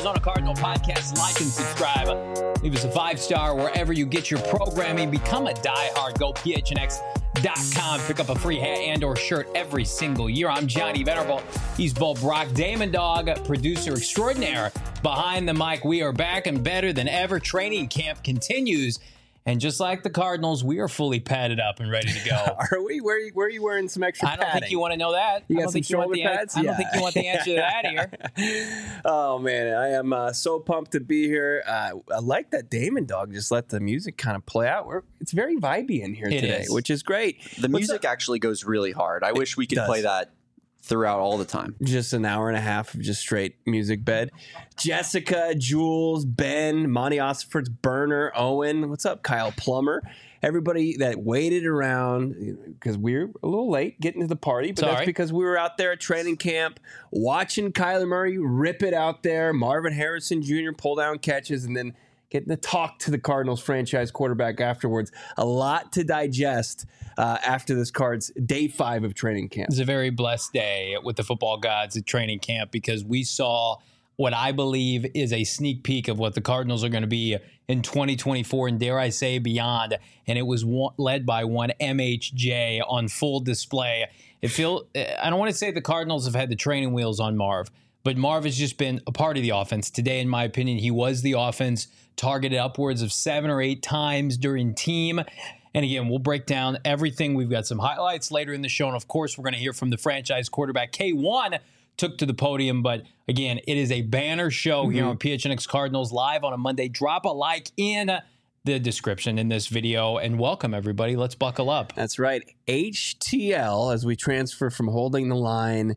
Arizona Cardinal podcast. Like and subscribe. Leave us a 5-star wherever you get your programming. Become a diehard. Go phnx.com. Pick up a free hat and or shirt every single year. I'm Johnny Venerable. He's Bo Brock. Damon Dog, producer extraordinaire behind the mic. We are back and better than ever. Training camp continues. And just like the Cardinals, we are fully padded up and ready to go. Are we? Where are you wearing some extra padding? I don't think you want to know that. You got some shoulder pads? I don't think you want the answer to that here. Oh, man. I am so pumped to be here. I like that Damon Dog just let the music kind of play out. It's very vibey in here today, which is great. The music actually goes really hard. I wish we could play that throughout all the time. Just an hour and a half of just straight music bed. Jessica, Jules, Ben, Monty Osford's Burner, Owen. What's up, Kyle Plummer? Everybody that waited around because we were a little late getting to the party, but that's because we were out there at training camp watching Kyler Murray rip it out there, Marvin Harrison Jr. pull down catches, and then getting to talk to the Cardinals franchise quarterback afterwards. A lot to digest after this Cards day 5 of training camp. It's a very blessed day with the football gods at training camp because we saw what I believe is a sneak peek of what the Cardinals are going to be in 2024 and dare I say beyond. And it was led by one MHJ on full display. I don't want to say the Cardinals have had the training wheels on Marv, but Marv has just been a part of the offense. Today, in my opinion, he was the offense, targeted upwards of 7 or 8 times during team. And again, we'll break down everything. We've got some highlights later in the show. And of course, we're going to hear from the franchise quarterback. K1 took to the podium. But again, it is a banner show here on PHNX Cardinals live on a Monday. Drop a like in the description in this video and welcome everybody. Let's buckle up. That's right. HTL as we transfer from holding the line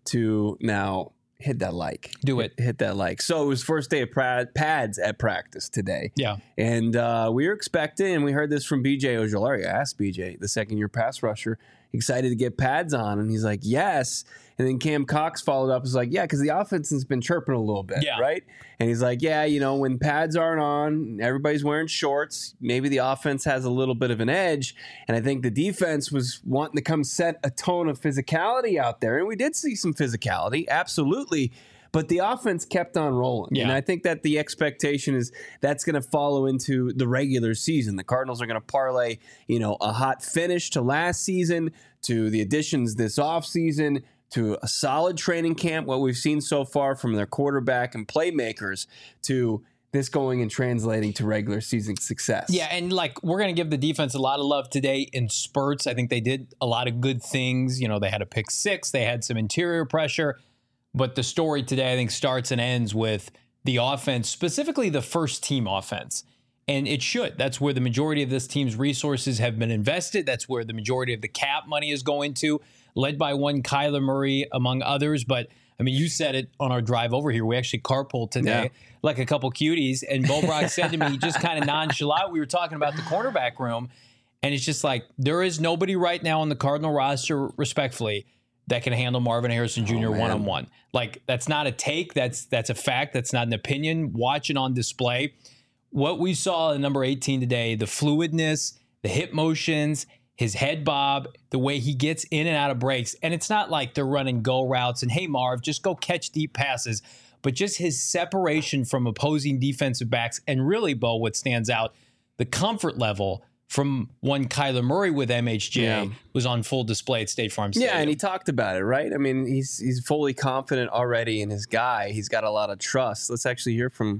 to now hit that like. Do it. Hit that like. So it was first day of pads at practice today. Yeah. And we were expecting, and we heard this from BJ Ojolari. I asked BJ, the second-year pass rusher, excited to get pads on. And he's like, yes. And then Cam Cox followed up. Was like, yeah, because the offense has been chirping a little bit, right? And he's like, yeah, when pads aren't on, everybody's wearing shorts. Maybe the offense has a little bit of an edge. And I think the defense was wanting to come set a tone of physicality out there. And we did see some physicality, absolutely. But the offense kept on rolling. And I think that the expectation is that's going to follow into the regular season. The Cardinals are going to parlay, a hot finish to last season, to the additions this offseason, to a solid training camp, what we've seen so far from their quarterback and playmakers, to this going and translating to regular season success. Yeah, and we're going to give the defense a lot of love today in spurts. I think they did a lot of good things. They had a pick 6. They had some interior pressure. But the story today, I think, starts and ends with the offense, specifically the first team offense. And it should. That's where the majority of this team's resources have been invested. That's where the majority of the cap money is going to, led by one Kyler Murray, among others. But, I mean, you said it on our drive over here. We actually carpooled today like a couple cuties. And Bo Brock said to me, just kind of nonchalant, we were talking about the cornerback room. And it's just like, there is nobody right now on the Cardinal roster, respectfully, that can handle Marvin Harrison Jr. one-on-one. That's not a take. That's a fact. That's not an opinion. Watch it on display. What we saw in number 18 today, the fluidness, the hip motions, his head bob, the way he gets in and out of breaks. And it's not like they're running go routes and, hey, Marv, just go catch deep passes. But just his separation from opposing defensive backs. And really, Bo, what stands out, the comfort level from one Kyler Murray with MHJ was on full display at State Farm Stadium. Yeah, and he talked about it, right? I mean, he's fully confident already in his guy. He's got a lot of trust. Let's actually hear from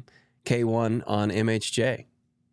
K1 on MHJ.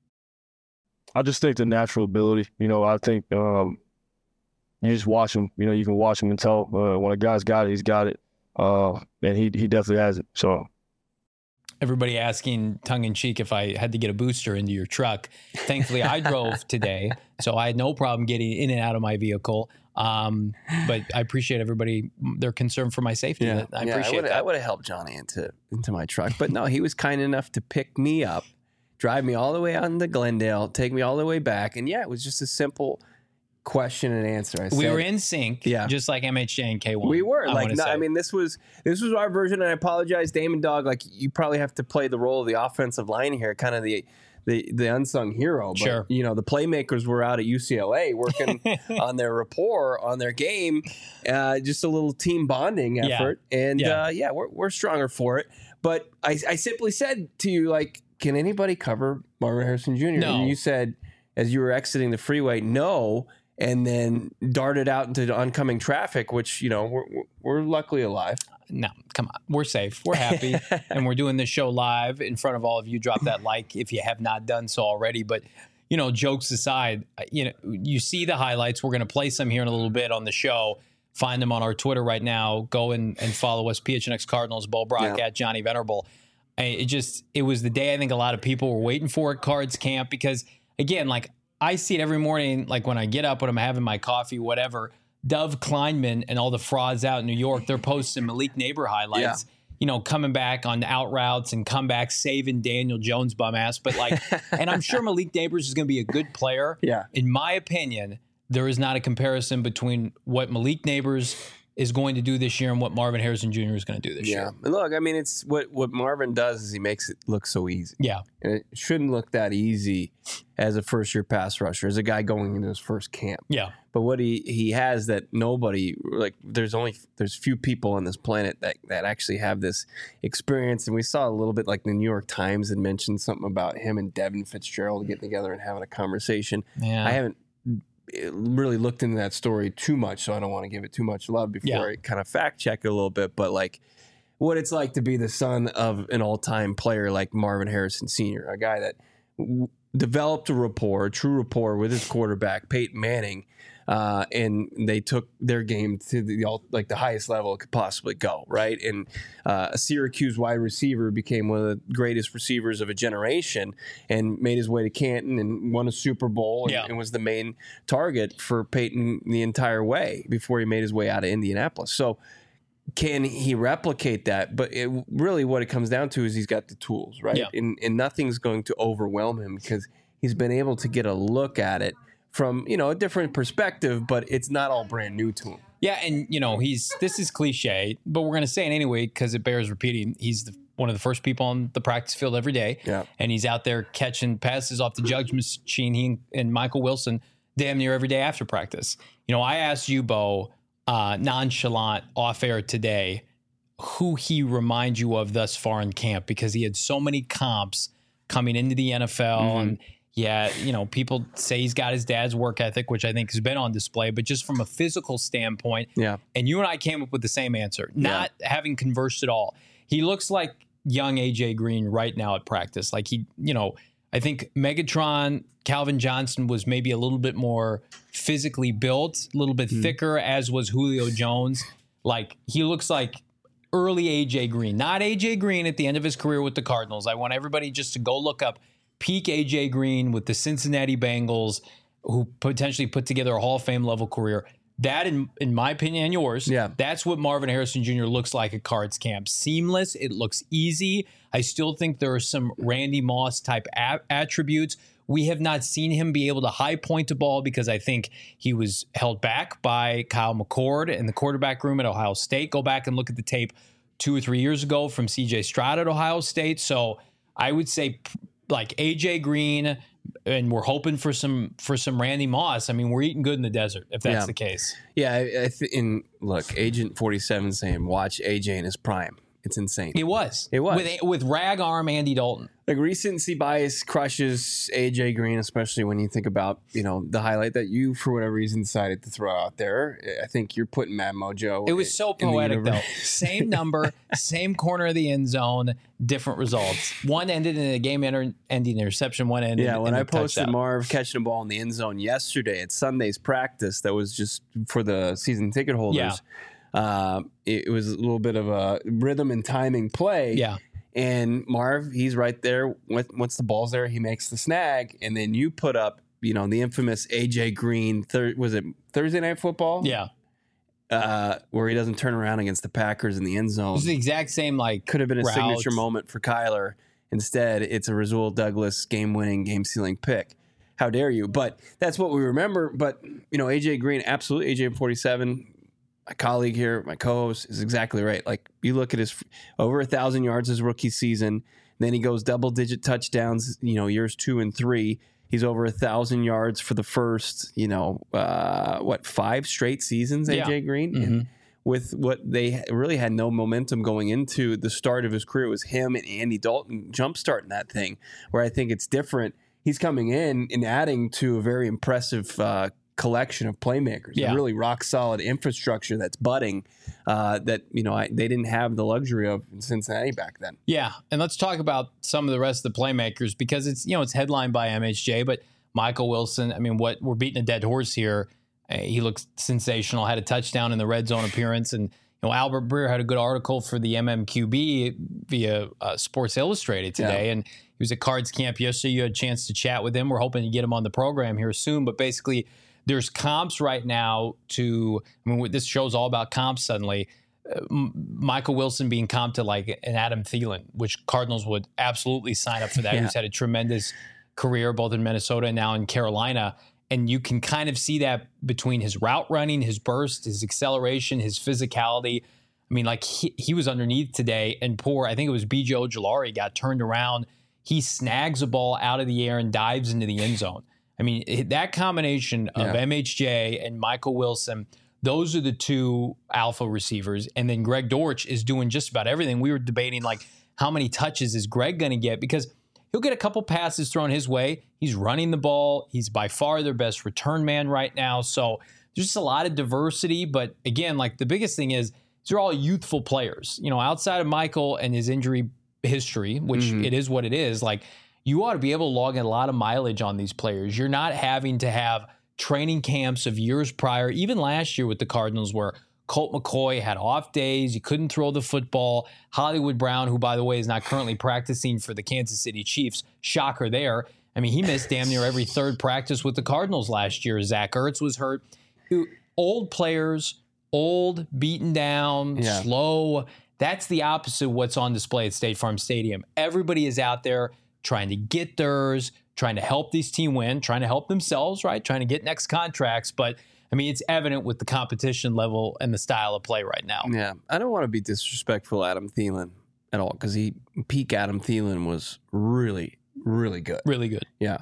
I just think the natural ability. I think you just watch him. You can watch him and tell when a guy's got it, he's got it. And he definitely has it. So. Everybody asking tongue-in-cheek if I had to get a booster into your truck. Thankfully, I drove today, so I had no problem getting in and out of my vehicle. But I appreciate everybody, their concern for my safety. I appreciate that. I would have helped Johnny into my truck. But no, he was kind enough to pick me up, drive me all the way out into Glendale, take me all the way back. And it was just a simple question and answer. We were in sync, just like MHJ and K1. We were this was our version. And I apologize, Damon Dog. You probably have to play the role of the offensive line here, kind of the unsung hero. But, sure. The playmakers were out at UCLA working on their rapport, on their game, just a little team bonding effort. And we're stronger for it. But I simply said to you, like, can anybody cover Marvin Harrison Jr.? No. And you said, as you were exiting the freeway, no, and then darted out into the oncoming traffic, which, we're luckily alive. No, come on. We're safe. We're happy. And we're doing this show live in front of all of you. Drop that like if you have not done so already. But, jokes aside, you see the highlights. We're going to play some here in a little bit on the show. Find them on our Twitter right now. Go and follow us, PHNX Cardinals, Bo Brock, at Johnny Venerable. It was the day I think a lot of people were waiting for at Cards Camp because, again, like I see it every morning, like when I get up, when I'm having my coffee, whatever, Dove Kleinman and all the frauds out in New York, they're posting Malik Neighbor highlights, coming back on out routes and comebacks, saving Daniel Jones bum ass. But and I'm sure Malik Neighbors is going to be a good player. Yeah. In my opinion, there is not a comparison between what Malik Neighbors is going to do this year and what Marvin Harrison Jr. is going to do this year. Look, I mean, it's what Marvin does is he makes it look so easy. Yeah. And it shouldn't look that easy as a first-year pass rusher, as a guy going into his first camp. Yeah. But what he has that nobody, like, there's few people on this planet that actually have this experience. And we saw a little bit, like the New York Times had mentioned something about him and Devin Fitzgerald getting together and having a conversation. Yeah. I haven't really looked into that story too much, so I don't want to give it too much love before I kind of fact check it a little bit. But like what it's like to be the son of an all-time player like Marvin Harrison Sr., a guy that developed a true rapport with his quarterback, Peyton Manning, and they took their game to the highest level it could possibly go, right? And a Syracuse wide receiver became one of the greatest receivers of a generation and made his way to Canton and won a Super Bowl and was the main target for Peyton the entire way before he made his way out of Indianapolis. So can he replicate that? But really what it comes down to is he's got the tools, right? Yeah. And nothing's going to overwhelm him because he's been able to get a look at it from, a different perspective, but it's not all brand new to him. Yeah, and, this is cliche, but we're going to say it anyway because it bears repeating. He's one of the first people on the practice field every day, and he's out there catching passes off the judge machine. He and Michael Wilson damn near every day after practice. I asked you, Bo, nonchalant off air today, who he reminds you of thus far in camp because he had so many comps coming into the NFL and people say he's got his dad's work ethic, which I think has been on display, but just from a physical standpoint. Yeah. And you and I came up with the same answer, not having conversed at all. He looks like young AJ Green right now at practice. Like I think Megatron, Calvin Johnson was maybe a little bit more physically built, a little bit thicker, as was Julio Jones. Like he looks like early AJ Green, not AJ Green at the end of his career with the Cardinals. I want everybody just to go look up peak AJ Green with the Cincinnati Bengals, who potentially put together a Hall of Fame level career. That, in my opinion and yours, that's what Marvin Harrison Jr. looks like at Cards Camp. Seamless. It looks easy. I still think there are some Randy Moss type attributes. We have not seen him be able to high point a ball because I think he was held back by Kyle McCord in the quarterback room at Ohio State. Go back and look at the tape 2 or 3 years ago from CJ Stroud at Ohio State. So I would say like AJ Green, and we're hoping for some Randy Moss. I mean, we're eating good in the desert if that's the case. Yeah, look, Agent 47 saying watch AJ in his prime. It's insane. It was with rag arm Andy Dalton. Like recency bias crushes AJ Green, especially when you think about the highlight that you for whatever reason decided to throw out there. I think you're putting Mad Mojo. It was so poetic though. Same number, same corner of the end zone, different results. One ended in a game-ending interception. One ended. Yeah, when I posted touchdown. Marv catching a ball in the end zone yesterday at Sunday's practice, that was just for the season ticket holders. Yeah. It was a little bit of a rhythm and timing play. Yeah. And Marv, he's right there. Once the ball's there, he makes the snag. And then you put up, the infamous AJ Green, was it Thursday Night Football? Yeah. Where he doesn't turn around against the Packers in the end zone. It was the exact same, could have been a signature moment for Kyler. Instead, it's a Rasul Douglas game-winning, game-sealing pick. How dare you? But that's what we remember. But, AJ Green, absolutely, AJ 47, my colleague here, my co-host, is exactly right. Like, you look at his over 1,000 yards his rookie season, then he goes double-digit touchdowns, years 2 and 3. He's over 1,000 yards for the first, 5 straight seasons, AJ Green? Mm-hmm. And with what they really had no momentum going into the start of his career. It was him and Andy Dalton jumpstarting that thing, where I think it's different. He's coming in and adding to a very impressive collection of playmakers, a really rock solid infrastructure that's budding that, they didn't have the luxury of in Cincinnati back then. Yeah. And let's talk about some of the rest of the playmakers, because it's, it's headlined by MHJ, but Michael Wilson, I mean, we're beating a dead horse here. He looks sensational, had a touchdown in the red zone appearance. And, Albert Breer had a good article for the MMQB via Sports Illustrated today. Yeah. And he was at Cards Camp yesterday. You had a chance to chat with him. We're hoping to get him on the program here soon. But basically, there's comps right now this show's all about comps suddenly. Michael Wilson being comped to like an Adam Thielen, which Cardinals would absolutely sign up for that. Who's had a tremendous career both in Minnesota and now in Carolina. And you can kind of see that between his route running, his burst, his acceleration, his physicality. I mean, like he was underneath today, and I think it was B.J. Ojulari got turned around. He snags a ball out of the air and dives into the end zone. I mean, that combination of MHJ and Michael Wilson, those are the two alpha receivers. And then Greg Dortch is doing just about everything. We were debating, like, how many touches is Greg going to get? Because he'll get a couple passes thrown his way. He's running the ball. He's by far their best return man right now. So there's just a lot of diversity. But again, like the biggest thing is these are all youthful players. Outside of Michael and his injury history, which it is what it is, like you ought to be able to log in a lot of mileage on these players. You're not having to have training camps of years prior, even last year with the Cardinals, where Colt McCoy had off days. He couldn't throw the football. Hollywood Brown, who, by the way, is not currently practicing for the Kansas City Chiefs. Shocker there. I mean, he missed damn near every third practice with the Cardinals last year. Zach Ertz was hurt. Old players, beaten down, slow. That's the opposite of what's on display at State Farm Stadium. Everybody is out there trying to get theirs, trying to help this team win, trying to help themselves, right? Trying to get next contracts. But I mean, it's evident with the competition level and the style of play right now. Yeah, I don't want to be disrespectful to Adam Thielen at all, because peak Adam Thielen was really, really good. Really good. Yeah.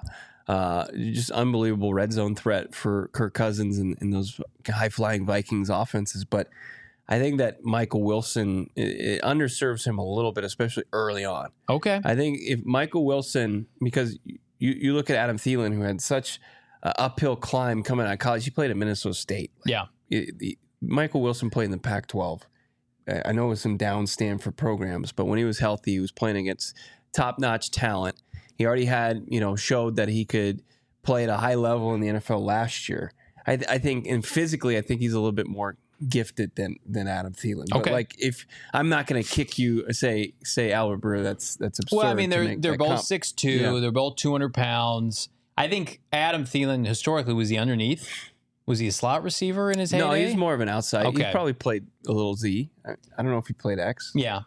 Just unbelievable red zone threat for Kirk Cousins and those high-flying Vikings offenses. But I think that Michael Wilson, it underserves him a little bit, especially early on. Okay. I think if Michael Wilson, because you look at Adam Thielen, who had such uphill climb coming out of college. He played at Minnesota State. Yeah. Michael Wilson played in the Pac-12. I know it was some down Stanford programs, but when he was healthy, he was playing against top-notch talent. He already had, showed that he could play at a high level in the NFL last year. I think, and physically, I think he's a little bit more gifted than Adam Thielen. But like, if I'm not going to kick you, say Albert Breer, that's absurd. Well, I mean, they're both 6'2", yeah. They're both 200 pounds. I think Adam Thielen historically was he underneath. Was he a slot receiver in his heyday? No, he's more of an outside. Okay. He probably played a little Z. I don't know if he played X. Yeah,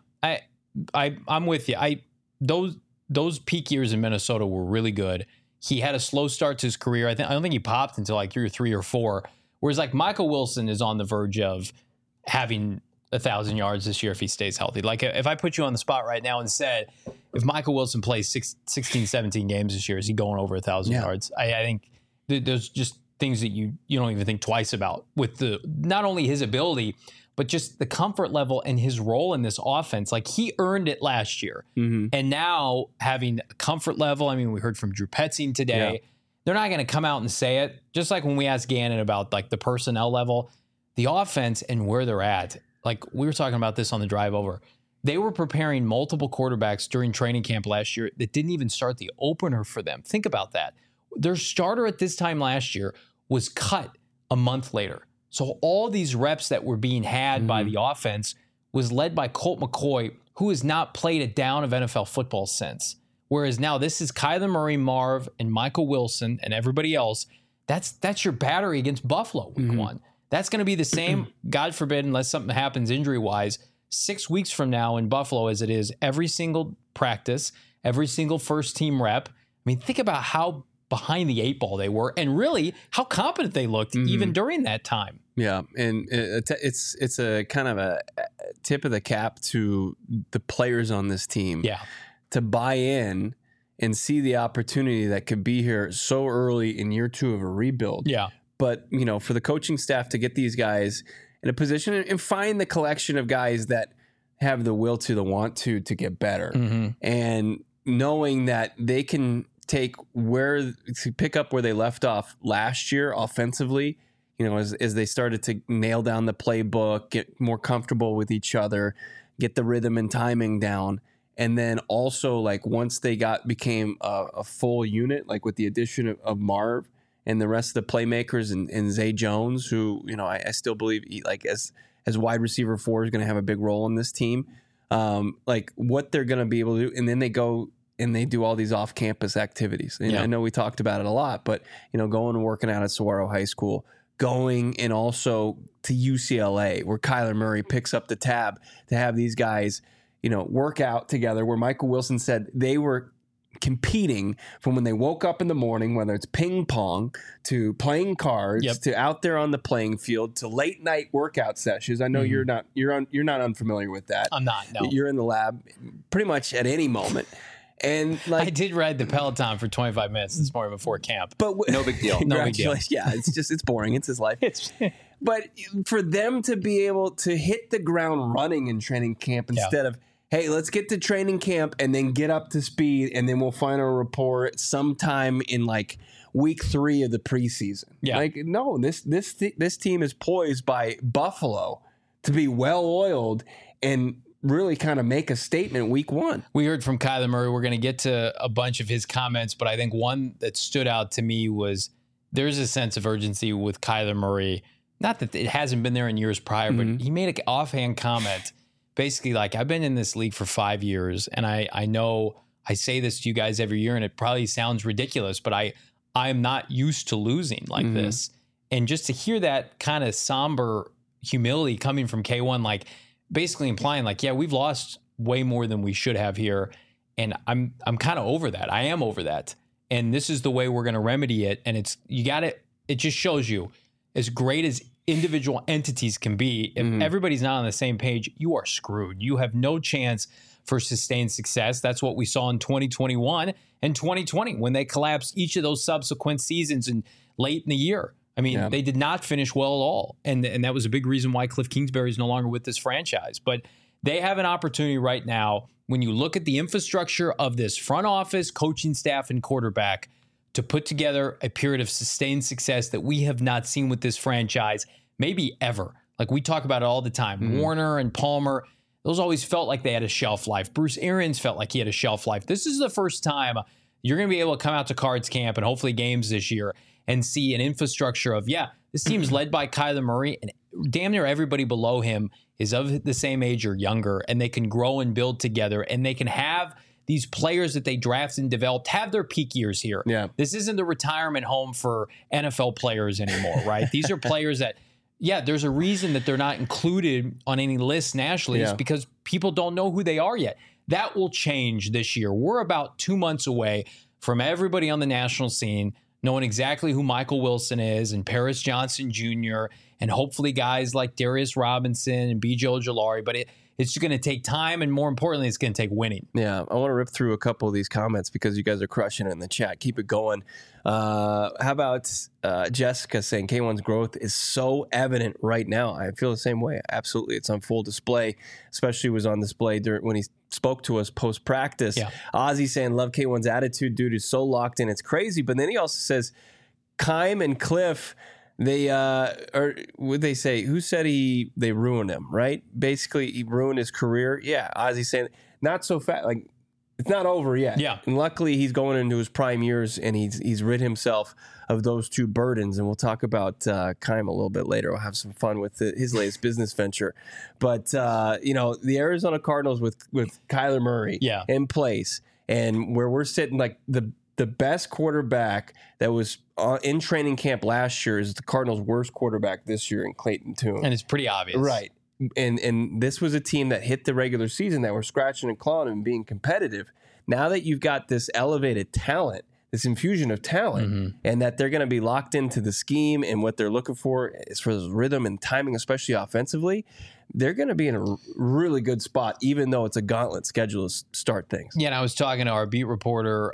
I'm with you. Those peak years in Minnesota were really good. He had a slow start to his career. I don't think he popped until like year 3 or 4. Whereas like Michael Wilson is on the verge of having 1,000 yards this year if he stays healthy. Like if I put you on the spot right now and said, if Michael Wilson plays 16, 17 games this year, is he going over 1,000 yards? I think there's just things that you don't even think twice about with not only his ability, but just the comfort level and his role in this offense. Like he earned it last year. Mm-hmm. And now having a comfort level, I mean, we heard from Drew Petzing today. Yeah. They're not going to come out and say it. Just like when we asked Gannon about like the personnel level, the offense and where they're at. Like we were talking about this on the drive over. They were preparing multiple quarterbacks during training camp last year that didn't even start the opener for them. Think about that. Their starter at this time last year was cut a month later. So all these reps that were being had by the offense was led by Colt McCoy, who has not played a down of NFL football since. Whereas now this is Kyler Murray, Marv, and Michael Wilson, and everybody else. That's your battery against Buffalo week 1. That's going to be the same, God forbid, unless something happens injury-wise, 6 weeks from now in Buffalo as it is every single practice, every single first-team rep. I mean, think about how behind the 8 ball they were, and really how competent they looked even during that time. Yeah, and it's a kind of a tip of the cap to the players on this team. Yeah, to buy in and see the opportunity that could be here so early in year 2 of a rebuild. Yeah, but for the coaching staff to get these guys in a position and find the collection of guys that have the will to, the want to get better. And knowing that they can pick up where they left off last year offensively, you know, as they started to nail down the playbook, get more comfortable with each other, get the rhythm and timing down. And then also, like, once they became a full unit, like with the addition of Marv and the rest of the playmakers and Zay Jones, who, you know, I still believe as wide receiver 4 is going to have a big role in this team. Like what they're going to be able to do. And then they go and they do all these off-campus activities. And I know we talked about it a lot, but, you know, going and working out at Saguaro High School, going and also to UCLA, where Kyler Murray picks up the tab to have these guys, you know, work out together, where Michael Wilson said they were competing from when they woke up in the morning, whether it's ping pong to playing cards to out there on the playing field to late night workout sessions. I know you're not unfamiliar with that. I'm not. No, you're in the lab pretty much at any moment. And like, I did ride the Peloton for 25 minutes this morning before camp, but no big deal. No big deal. Yeah, it's boring. It's his life. But for them to be able to hit the ground running in training camp instead of, hey, let's get to training camp and then get up to speed, and then we'll final report sometime in like week 3 of the preseason. Yeah. Like, no, this team is poised by Buffalo to be well oiled and really kind of make a statement week 1. We heard from Kyler Murray. We're going to get to a bunch of his comments, but I think one that stood out to me was there's a sense of urgency with Kyler Murray. Not that it hasn't been there in years prior, but he made an offhand comment. Basically, like, I've been in this league for 5 years, and I know I say this to you guys every year, and it probably sounds ridiculous, but I'm not used to losing like this. And just to hear that kind of somber humility coming from K1, like basically implying like, yeah, we've lost way more than we should have here, and I'm kind of over that. I am over that, and this is the way we're going to remedy it. And it just shows you, as great as individual entities can be, if everybody's not on the same page, you are screwed. You have no chance for sustained success. That's what we saw in 2021 and 2020 when they collapsed each of those subsequent seasons and late in the year. I mean, they did not finish well at all. And that was a big reason why Cliff Kingsbury is no longer with this franchise. But they have an opportunity right now, when you look at the infrastructure of this front office, coaching staff, and quarterback, to put together a period of sustained success that we have not seen with this franchise, maybe ever. Like, we talk about it all the time. Warner and Palmer, those always felt like they had a shelf life. Bruce Arians felt like he had a shelf life. This is the first time you're going to be able to come out to Cards Camp and hopefully games this year and see an infrastructure of, this team's led by Kyler Murray, and damn near everybody below him is of the same age or younger, and they can grow and build together, and they can have these players that they drafted and developed have their peak years here. Yeah. This isn't the retirement home for NFL players anymore, right? These are players that, there's a reason that they're not included on any list nationally. It's because people don't know who they are yet. That will change this year. We're about 2 months away from everybody on the national scene knowing exactly who Michael Wilson is and Paris Johnson Jr. and hopefully guys like Darius Robinson and B.J. Ojulari. But it's going to take time, and more importantly, it's going to take winning. Yeah, I want to rip through a couple of these comments because you guys are crushing it in the chat. Keep it going. How about Jessica saying K1's growth is so evident right now? I feel the same way. Absolutely. It's on full display, especially was on display when he spoke to us post-practice. Yeah. Ozzy saying, love K1's attitude. Dude is so locked in. It's crazy. But then he also says, Kime and Cliff, they or would they say, who said they ruined him, right? Basically, he ruined his career. Yeah, Ozzy saying not so fast, like it's not over yet. Yeah, and luckily he's going into his prime years, and he's rid himself of those two burdens. And we'll talk about Kime a little bit later. We'll have some fun with his latest business venture. But the Arizona Cardinals with Kyler Murray in place, and where we're sitting, like the best quarterback that was in training camp last year is the Cardinals' worst quarterback this year in Clayton Tune. And it's pretty obvious. Right. And this was a team that hit the regular season that were scratching and clawing and being competitive. Now that you've got this elevated talent, this infusion of talent, and that they're going to be locked into the scheme and what they're looking for as far as rhythm and timing, especially offensively, they're going to be in a really good spot, even though it's a gauntlet schedule to start things. Yeah, and I was talking to our beat reporter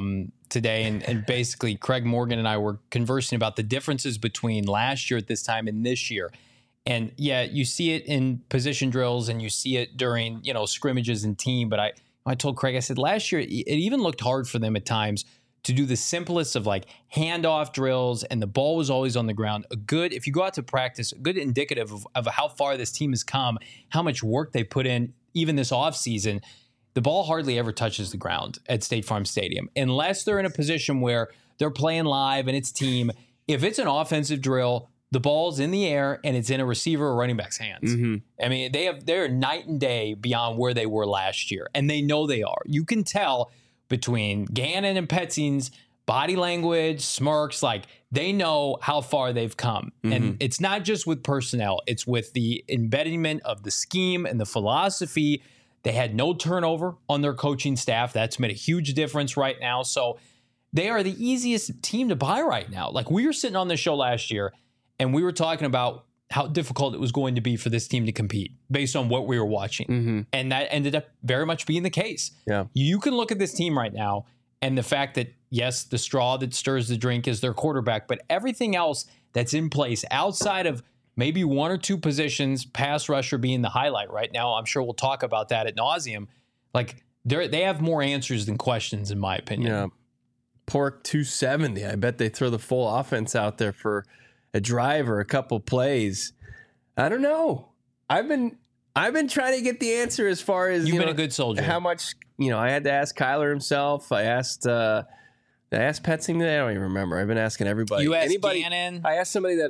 today, and basically Craig Morgan and I were conversing about the differences between last year at this time and this year. And yeah, you see it in position drills and you see it during, scrimmages and team. But I told Craig, I said last year, it even looked hard for them at times to do the simplest of like handoff drills, and the ball was always on the ground. If you go out to practice, a good indicative of how far this team has come, how much work they put in, even this offseason. The ball hardly ever touches the ground at State Farm Stadium unless they're in a position where they're playing live and it's team. If it's an offensive drill, the ball's in the air and it's in a receiver or running back's hands. Mm-hmm. I mean, they're night and day beyond where they were last year, and they know they are. You can tell between Gannon and Petzing's body language, smirks, like they know how far they've come. Mm-hmm. And it's not just with personnel, it's with the embedment of the scheme and the philosophy. They had no turnover on their coaching staff. That's made a huge difference right now. So they are the easiest team to buy right now. Like, we were sitting on the show last year and we were talking about how difficult it was going to be for this team to compete based on what we were watching. Mm-hmm. And that ended up very much being the case. Yeah. You can look at this team right now and the fact that, yes, the straw that stirs the drink is their quarterback, but everything else that's in place outside of maybe one or two positions, pass rusher being the highlight right now, I'm sure we'll talk about that ad nauseum. Like, they have more answers than questions, in my opinion. Yeah. Pork 270. I bet they throw the full offense out there for a drive or a couple plays. I don't know. I've been trying to get the answer as far as you've been a good soldier. How much, I had to ask Kyler himself. I asked Petzing today. I don't even remember. I've been asking everybody. You asked Gannon. I asked somebody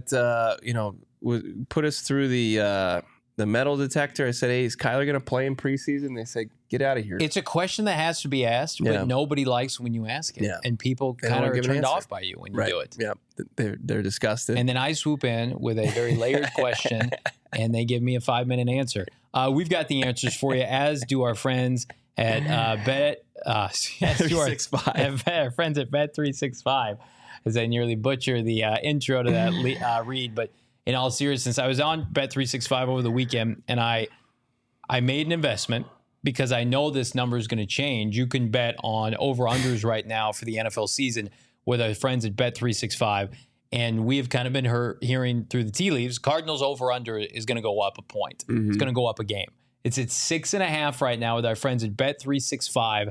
that put us through the metal detector. I said, "Hey, is Kyler going to play in preseason?" They said, "Get out of here." It's a question that has to be asked, but nobody likes when you ask it, and people kind of are turned off by you when you do it. Yeah, they're disgusted. And then I swoop in with a very layered question, and they give me a 5-minute answer. We've got the answers for you, as do our friends at our friends at Bet365, as I nearly butcher the intro to that read. But in all seriousness, I was on Bet365 over the weekend, and I made an investment because I know this number is going to change. You can bet on over-unders right now for the NFL season with our friends at Bet365. And we have kind of been hearing through the tea leaves, Cardinals over-under is going to go up a point. Mm-hmm. It's going to go up a game. It's at 6.5 right now with our friends at Bet365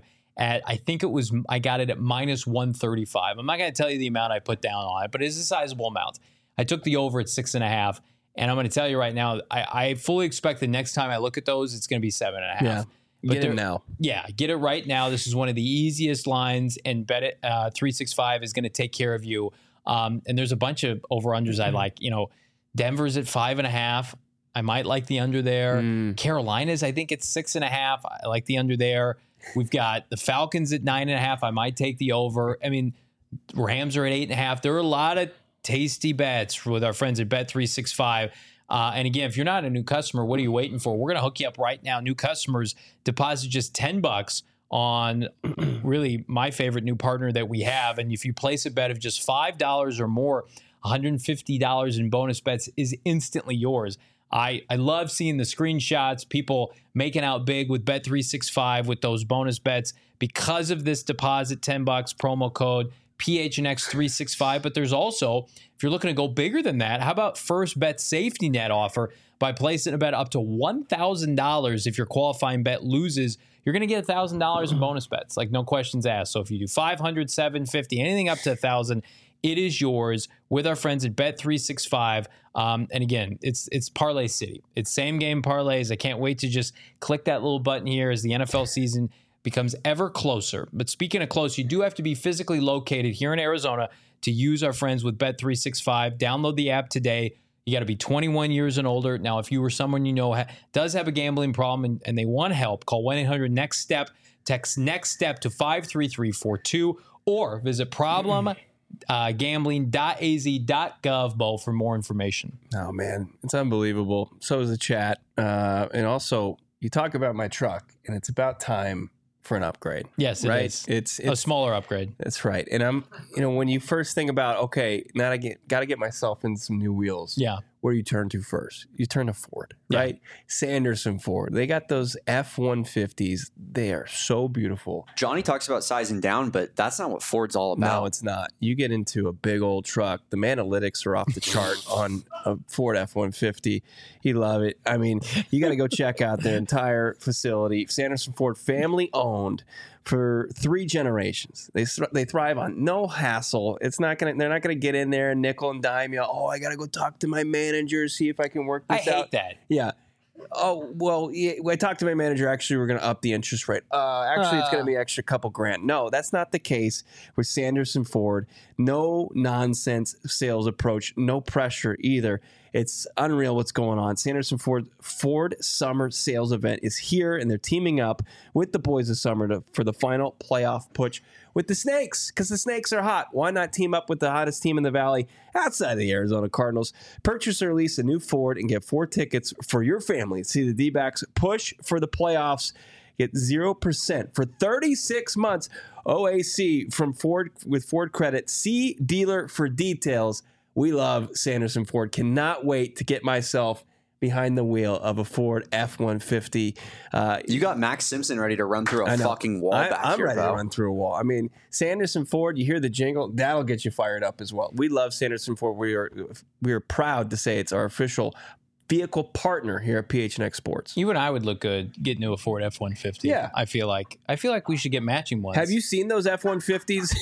I got it at minus 135. I'm not going to tell you the amount I put down on it, but it's a sizable amount. I took the over at 6.5, and I'm going to tell you right now, I fully expect the next time I look at those, it's going to be 7.5. Yeah. Get it now. Yeah, get it right now. This is one of the easiest lines, and Bet it 365 is going to take care of you. And there's a bunch of over-unders I like. Denver's at 5.5. I might like the under there. Carolina's, I think it's 6.5. I like the under there. We've got the Falcons at 9.5. I might take the over. I mean, Rams are at 8.5. There are a lot of tasty bets with our friends at Bet365. And again, if you're not a new customer, what are you waiting for? We're going to hook you up right now. New customers deposit just $10 on really my favorite new partner that we have. And if you place a bet of just $5 or more, $150 in bonus bets is instantly yours. I love seeing the screenshots, people making out big with Bet365 with those bonus bets because of this deposit, $10 promo code PHNX365. But there's also, if you're looking to go bigger than that, how about First Bet Safety Net offer? By placing a bet up to $1,000, if your qualifying bet loses, you're going to get $1,000 in bonus bets, like no questions asked. So if you do 500, 750, anything up to 1,000, it is yours with our friends at Bet365. And again, it's Parlay City. It's same game parlays. I can't wait to just click that little button here as the NFL season becomes ever closer. But speaking of close, you do have to be physically located here in Arizona to use our friends with Bet365. Download the app today. You got to be 21 years and older. Now, if you were someone does have a gambling problem and they want help, call 1-800-NEXT-STEP. Text NEXT STEP to 53342 or visit gambling.az.gov, Bo, for more information. Oh, man. It's unbelievable. So is the chat. And also, you talk about my truck, and it's about time for an upgrade. Yes, it is. It's a smaller upgrade. That's right. And I'm, when you first think about, okay, now I got to get myself in some new wheels. Yeah. where do you turn to first? You turn to Ford, right? Sanderson Ford. They got those F-150s. They are so beautiful. Johnny talks about sizing down, but that's not what Ford's all about. No, it's not. You get into a big old truck. The analytics are off the chart on a Ford F-150. You love it. I mean, you got to go check out their entire facility. Sanderson Ford, family owned for 3 generations. They thrive on no hassle. They're not gonna get in there and nickel and dime you. Oh, I gotta go talk to my manager, see if I can work this out. I hate that. Yeah. Oh, well, yeah, when I talked to my manager, actually, we're going to up the interest rate. Actually, it's going to be extra couple grand. No, that's not the case with Sanderson Ford. No nonsense sales approach, no pressure either. It's unreal what's going on. Sanderson Ford Summer Sales Event is here, and they're teaming up with the boys of summer for the final playoff push with the Snakes, because the Snakes are hot. Why not team up with the hottest team in the Valley outside of the Arizona Cardinals? Purchase or lease a new Ford and get 4 tickets for your family. See the D-backs push for the playoffs. Get 0% for 36 months. OAC from Ford with Ford Credit. See dealer for details. We love Sanderson Ford. Cannot wait to get myself behind the wheel of a Ford F-150. You got Max Simpson ready to run through a fucking wall back I'm here, ready bro. to run through a wall. I mean, Sanderson Ford, you hear the jingle, that'll get you fired up as well. We love Sanderson Ford. We are proud to say it's our official vehicle partner here at PHNX Sports. You and I would look good getting into a Ford F-150. Yeah. I feel like we should get matching ones. Have you seen those F-150s?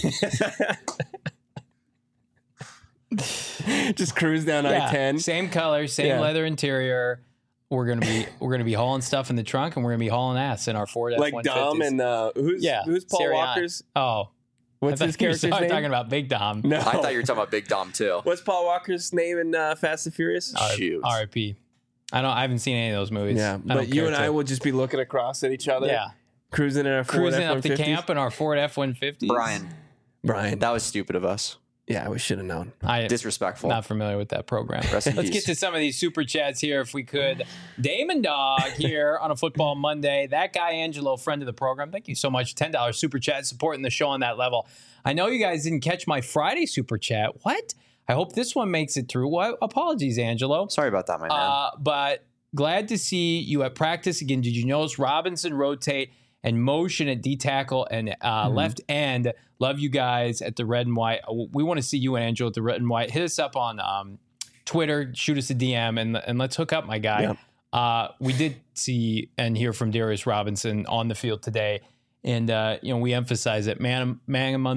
Just cruise down I-10. Same color, same leather interior. We're gonna be hauling stuff in the trunk, and we're gonna be hauling ass in our Ford F-150s. Like Dom and who's Paul Sirianni. Walker's? Oh, What's his character's name? Talking about Big Dom. No, I thought you were talking about Big Dom too. What's Paul Walker's name in Fast and Furious? Shoot. R.I.P. I haven't seen any of those movies. Yeah, but you and I will just be looking across at each other. Yeah, cruising in our Ford cruising F-150s. up to camp in our Ford F-150s. Brian. That was stupid of us. Yeah, we should have known. Disrespectful. Not familiar with that program. Rest in Let's peace. get to some of these super chats here if we could. Damon Dog here on a Football Monday. That guy, Angelo, friend of the program. Thank you so much. $10 super chat, supporting the show on that level. I know you guys didn't catch my Friday super chat. What? I hope this one makes it through. Well, apologies, Angelo. Sorry about that, my man. But glad to see you at practice again. Did you notice Robinson rotate and motion at D tackle and left end? Love you guys at the Red and White. We want to see you and Angelo at the Red and White. Hit us up on Twitter. Shoot us a DM and let's hook up, my guy. Yeah. We did see and hear from Darius Robinson on the field today. And, we emphasize it, man among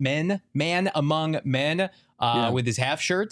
men with his half shirt.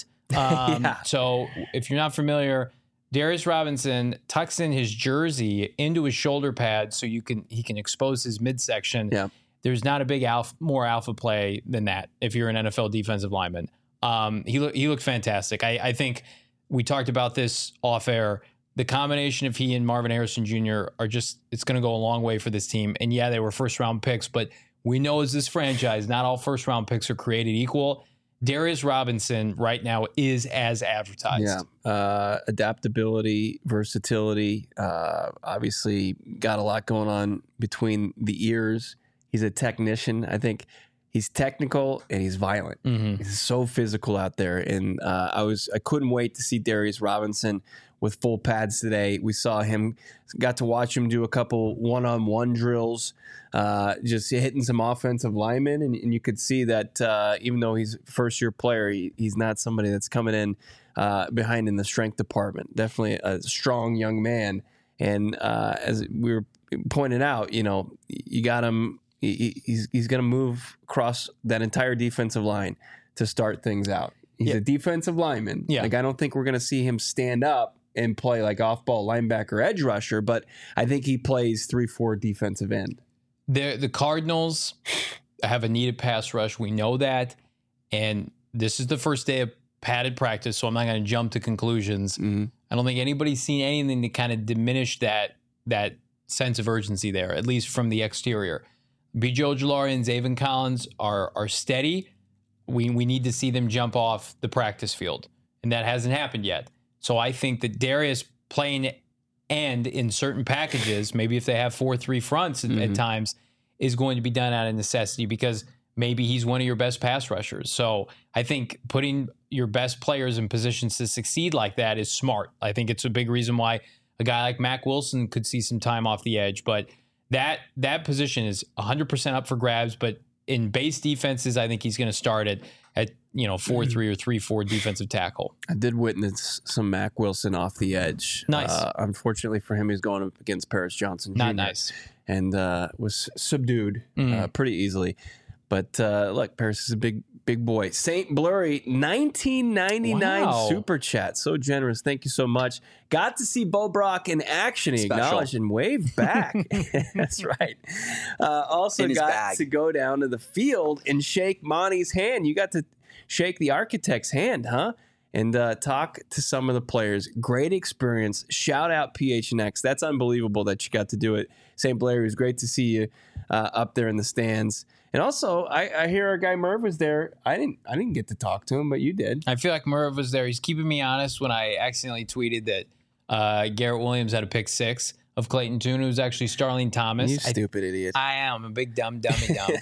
So if you're not familiar, Darius Robinson tucks in his jersey into his shoulder pad so he can expose his midsection. Yeah. There's not a big more alpha play than that if you're an NFL defensive lineman. He looked fantastic. I think we talked about this off air. The combination of he and Marvin Harrison Jr. it's going to go a long way for this team. And yeah, they were first round picks, but we know as this franchise, not all first round picks are created equal. Darius Robinson right now is as advertised. Yeah. Adaptability, versatility, obviously got a lot going on between the ears. He's a technician. I think he's technical and he's violent. Mm-hmm. He's so physical out there. And I couldn't wait to see Darius Robinson with full pads today. We got to watch him do a couple one-on-one drills, just hitting some offensive linemen. And you could see that even though he's a first-year player, he's not somebody that's coming in behind in the strength department. Definitely a strong young man. And as we were pointing out, you got him. He's going to move across that entire defensive line to start things out. He's a defensive lineman. Yeah. Like, I don't think we're going to see him stand up and play like off-ball linebacker edge rusher, but I think he plays 3-4 defensive end. The Cardinals have a needed pass rush. We know that. And this is the first day of padded practice, so I'm not going to jump to conclusions. Mm-hmm. I don't think anybody's seen anything to kind of diminish that sense of urgency there, at least from the exterior. B.J. Ojulari and Zaven Collins are steady. We need to see them jump off the practice field, and that hasn't happened yet. So I think that Darius playing end in certain packages, maybe if they have 4-3 fronts at times, is going to be done out of necessity because maybe he's one of your best pass rushers. So I think putting your best players in positions to succeed like that is smart. I think it's a big reason why a guy like Mack Wilson could see some time off the edge. But that position is 100% up for grabs. But in base defenses, I think he's going to start at 4-3 or 3-4 defensive tackle. I did witness some Mack Wilson off the edge. Nice. Unfortunately for him, he's going up against Paris Johnson Jr. Not nice. And was subdued pretty easily. But look, Paris is a big boy. Saint Blurry, 1999 super chat. So generous. Thank you so much. Got to see Bo Brock in action. He acknowledged and waved back. That's right. Also got to go down to the field and shake Monty's hand. You got to shake the architect's hand, huh? And talk to some of the players. Great experience. Shout out PHNX. That's unbelievable that you got to do it. St. Blair, it was great to see you up there in the stands. And also, I hear our guy Merv was there. I didn't get to talk to him, but you did. I feel like Merv was there. He's keeping me honest when I accidentally tweeted that Garrett Williams had a pick 6 of Clayton Tune, who's actually Starling Thomas. You stupid idiot. I am a big dummy dumb.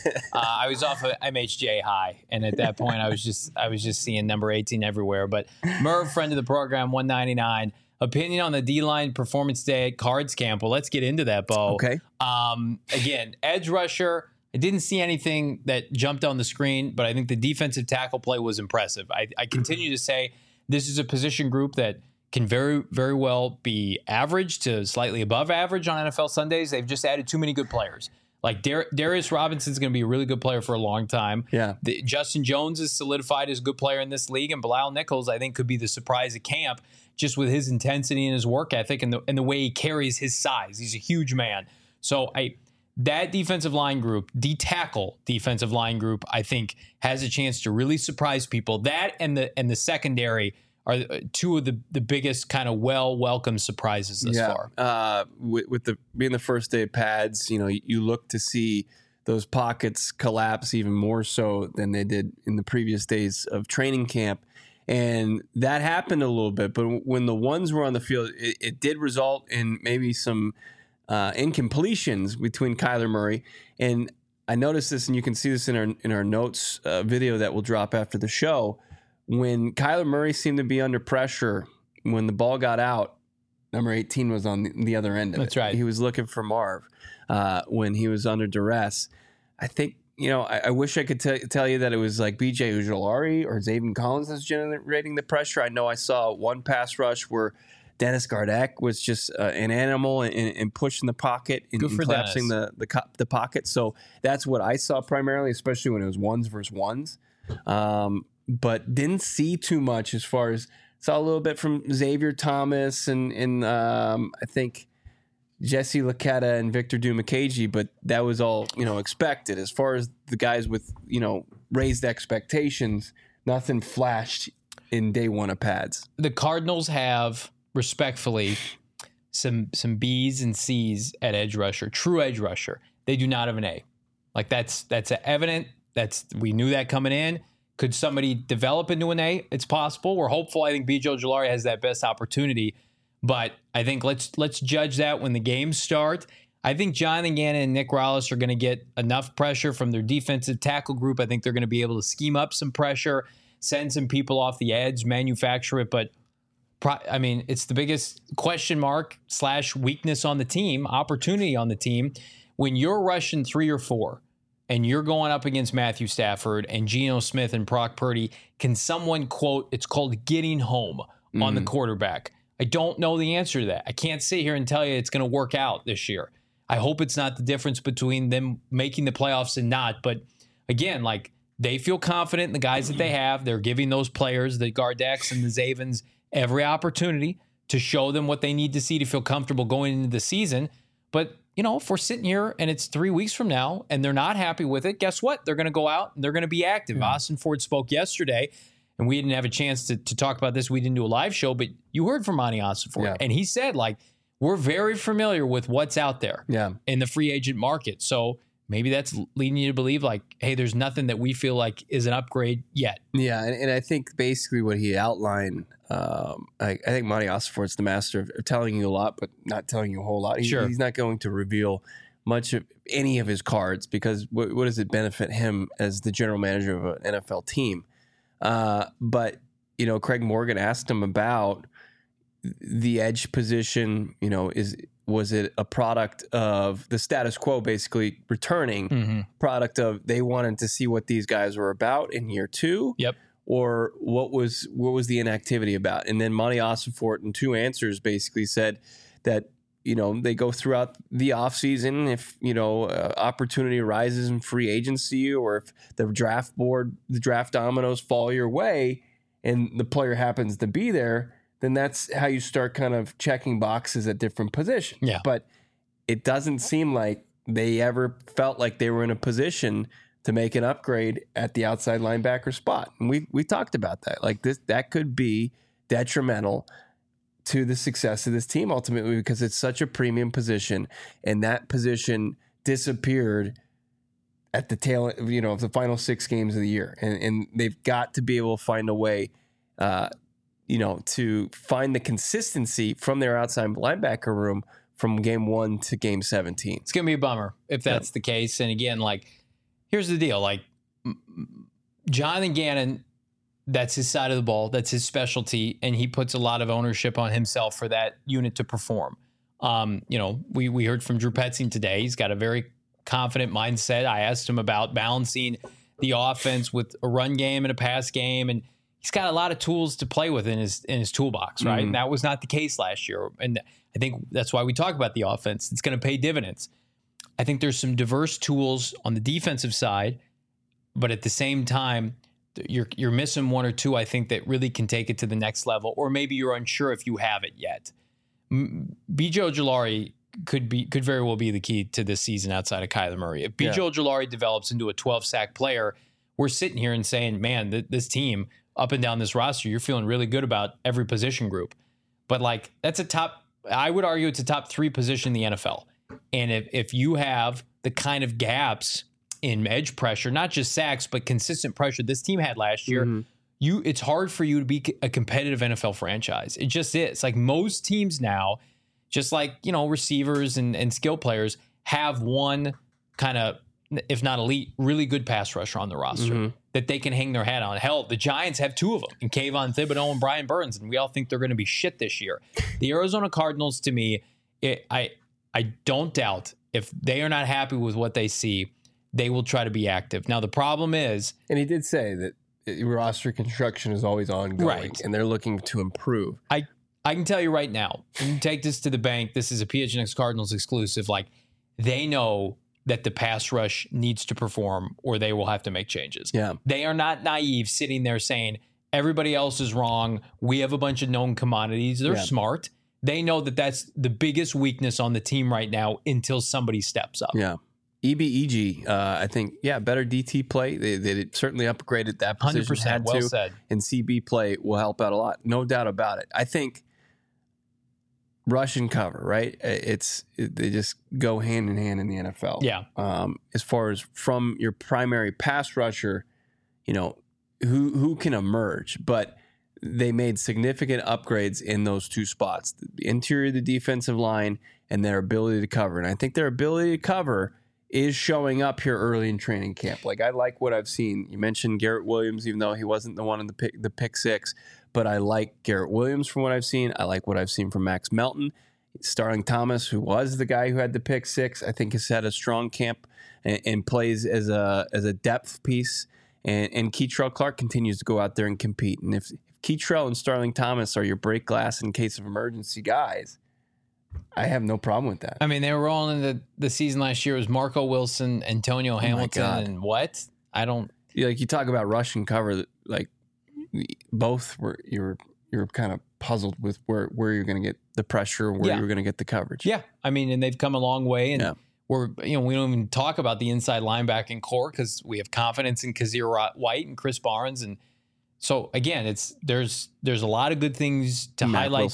I was off of MHJ high, and at that point, I was just seeing number 18 everywhere. But Merv, friend of the program, 199. Opinion on the D-line performance day at Cards Camp. Well, let's get into that, Bo. Okay. Again, edge rusher. I didn't see anything that jumped on the screen, but I think the defensive tackle play was impressive. I continue to say this is a position group that can very, very well be average to slightly above average on NFL Sundays. They've just added too many good players. Like Darius Robinson's going to be a really good player for a long time. Yeah. Justin Jones is solidified as a good player in this league, and Bilal Nichols, I think, could be the surprise at camp just with his intensity and his work ethic and the way he carries his size. He's a huge man. So that defensive line group, D-tackle defensive line group, I think has a chance to really surprise people. That and the secondary are two of the biggest kind of welcome surprises thus far. With being the first day of pads, you look to see those pockets collapse even more so than they did in the previous days of training camp. And that happened a little bit, but when the ones were on the field, it did result in maybe some incompletions between Kyler Murray. And I noticed this, and you can see this in our notes video that will drop after the show. When Kyler Murray seemed to be under pressure, when the ball got out, number 18 was on the other end of it. That's right. He was looking for Marv when he was under duress. I think, I wish I could tell you that it was like B.J. Ojulari or Zaven Collins that's generating the pressure. I know I saw one pass rush where Dennis Gardeck was just an animal and pushing the pocket and collapsing the pocket. So that's what I saw primarily, especially when it was ones versus ones. But didn't see too much as far as saw a little bit from Xavier Thomas and I think Jesse Lacetta and Victor Dumakaji, but that was all, expected. As far as the guys with, raised expectations, nothing flashed in day one of pads. The Cardinals have, respectfully, some B's and C's at edge rusher, true edge rusher. They do not have an A. Like that's evident. We knew that coming in. Could somebody develop into an A? It's possible. We're hopeful. I think B.J. Ojulari has that best opportunity. But I think let's judge that when the games start. I think Jonathan Gannon and Nick Rallis are going to get enough pressure from their defensive tackle group. I think they're going to be able to scheme up some pressure, send some people off the edge, manufacture it. But, it's the biggest question mark / weakness on the team, opportunity on the team. When you're rushing 3 or 4 and you're going up against Matthew Stafford and Geno Smith and Brock Purdy, can someone quote, it's called getting home on the quarterback? I don't know the answer to that. I can't sit here and tell you it's going to work out this year. I hope it's not the difference between them making the playoffs and not. But again, they feel confident in the guys that they have. They're giving those players, the Gardecks and the Zavens, every opportunity to show them what they need to see to feel comfortable going into the season. But, if we're sitting here and it's 3 weeks from now and they're not happy with it, guess what? They're going to go out and they're going to be active. Austin Ford spoke yesterday. And we didn't have a chance to talk about this. We didn't do a live show, but you heard from Monty Austin Ford. Yeah. And he said, we're very familiar with what's out there in the free agent market. So maybe that's leading you to believe, hey, there's nothing that we feel like is an upgrade yet. Yeah, and I think basically what he outlined, I think Monty Austin Ford's the master of telling you a lot, but not telling you a whole lot. He's not going to reveal much of any of his cards because what does it benefit him as the general manager of an NFL team? But Craig Morgan asked him about the edge position. Was it a product of the status quo basically returning, product of they wanted to see what these guys were about in year 2? Yep. Or what was the inactivity about? And then Monty Ossenfort in 2 answers basically said that, they go throughout the offseason if, opportunity arises in free agency, or if the draft dominoes fall your way and the player happens to be there, then that's how you start kind of checking boxes at different positions. Yeah. But it doesn't seem like they ever felt like they were in a position to make an upgrade at the outside linebacker spot. And we talked about that. Like that could be detrimental to the success of this team ultimately, because it's such a premium position, and that position disappeared at the tail, of the final 6 games of the year. And they've got to be able to find a way, to find the consistency from their outside linebacker room from game 1 to game 17. It's going to be a bummer if that's the case. And again, here's the deal. Jonathan Gannon, that's his side of the ball. That's his specialty. And he puts a lot of ownership on himself for that unit to perform. We heard from Drew Petzing today. He's got a very confident mindset. I asked him about balancing the offense with a run game and a pass game. And he's got a lot of tools to play with in his toolbox, right? And that was not the case last year. And I think that's why we talk about the offense. It's going to pay dividends. I think there's some diverse tools on the defensive side, but at the same time, you're missing 1 or 2, I think, that really can take it to the next level, or maybe you're unsure if you have it yet. B.J. Ojulari could very well be the key to this season outside of Kyler Murray. If B.J. Ojulari develops into a 12-sack player, we're sitting here and saying, man, this team up and down this roster, you're feeling really good about every position group. But that's I would argue it's a top 3 position in the NFL. And if you have the kind of gaps in edge pressure, not just sacks, but consistent pressure this team had last year, it's hard for you to be a competitive NFL franchise. It just is. Most teams now, just receivers and skill players have one kind of, if not elite, really good pass rusher on the roster that they can hang their hat on. Hell, the Giants have 2 of them, in Kayvon Thibodeau and Brian Burns, and we all think they're going to be shit this year. The Arizona Cardinals, to me, I don't doubt if they are not happy with what they see, they will try to be active. Now, the problem is... And he did say that roster construction is always ongoing, right, and they're looking to improve. I can tell you right now, you can take this to the bank. This is a PHNX Cardinals exclusive. They know that the pass rush needs to perform or they will have to make changes. Yeah. They are not naive sitting there saying, everybody else is wrong. We have a bunch of known commodities. They're smart. They know that that's the biggest weakness on the team right now until somebody steps up. Yeah. EBEG, I think, better DT play. They certainly upgraded that position. 100%, had well to, said. And CB play will help out a lot. No doubt about it. I think rush and cover, right? They just go hand in hand in the NFL. Yeah. As far as from your primary pass rusher, who can emerge, but they made significant upgrades in those 2 spots, the interior of the defensive line and their ability to cover. And I think their ability to cover is showing up here early in training camp. I like what I've seen. You mentioned Garrett Williams, even though he wasn't the one in the pick 6, but I like Garrett Williams from what I've seen. I like what I've seen from Max Melton. Starling Thomas, who was the guy who had the pick 6, I think has had a strong camp and plays as a depth piece. And Keitrell Clark continues to go out there and compete. And if Keitrell and Starling Thomas are your break glass in case of emergency guys, I have no problem with that. I mean, they were all in the season last year. It was Marco Wilson, Antonio Hamilton, and what? I don't... You talk about rush and cover, both were you're kind of puzzled with where you're going to get the pressure, where you're going to get the coverage. Yeah, I mean, and they've come a long way, and we don't even talk about the inside linebacking core because we have confidence in Kazir White and Chris Barnes, and so again, there's a lot of good things to highlight.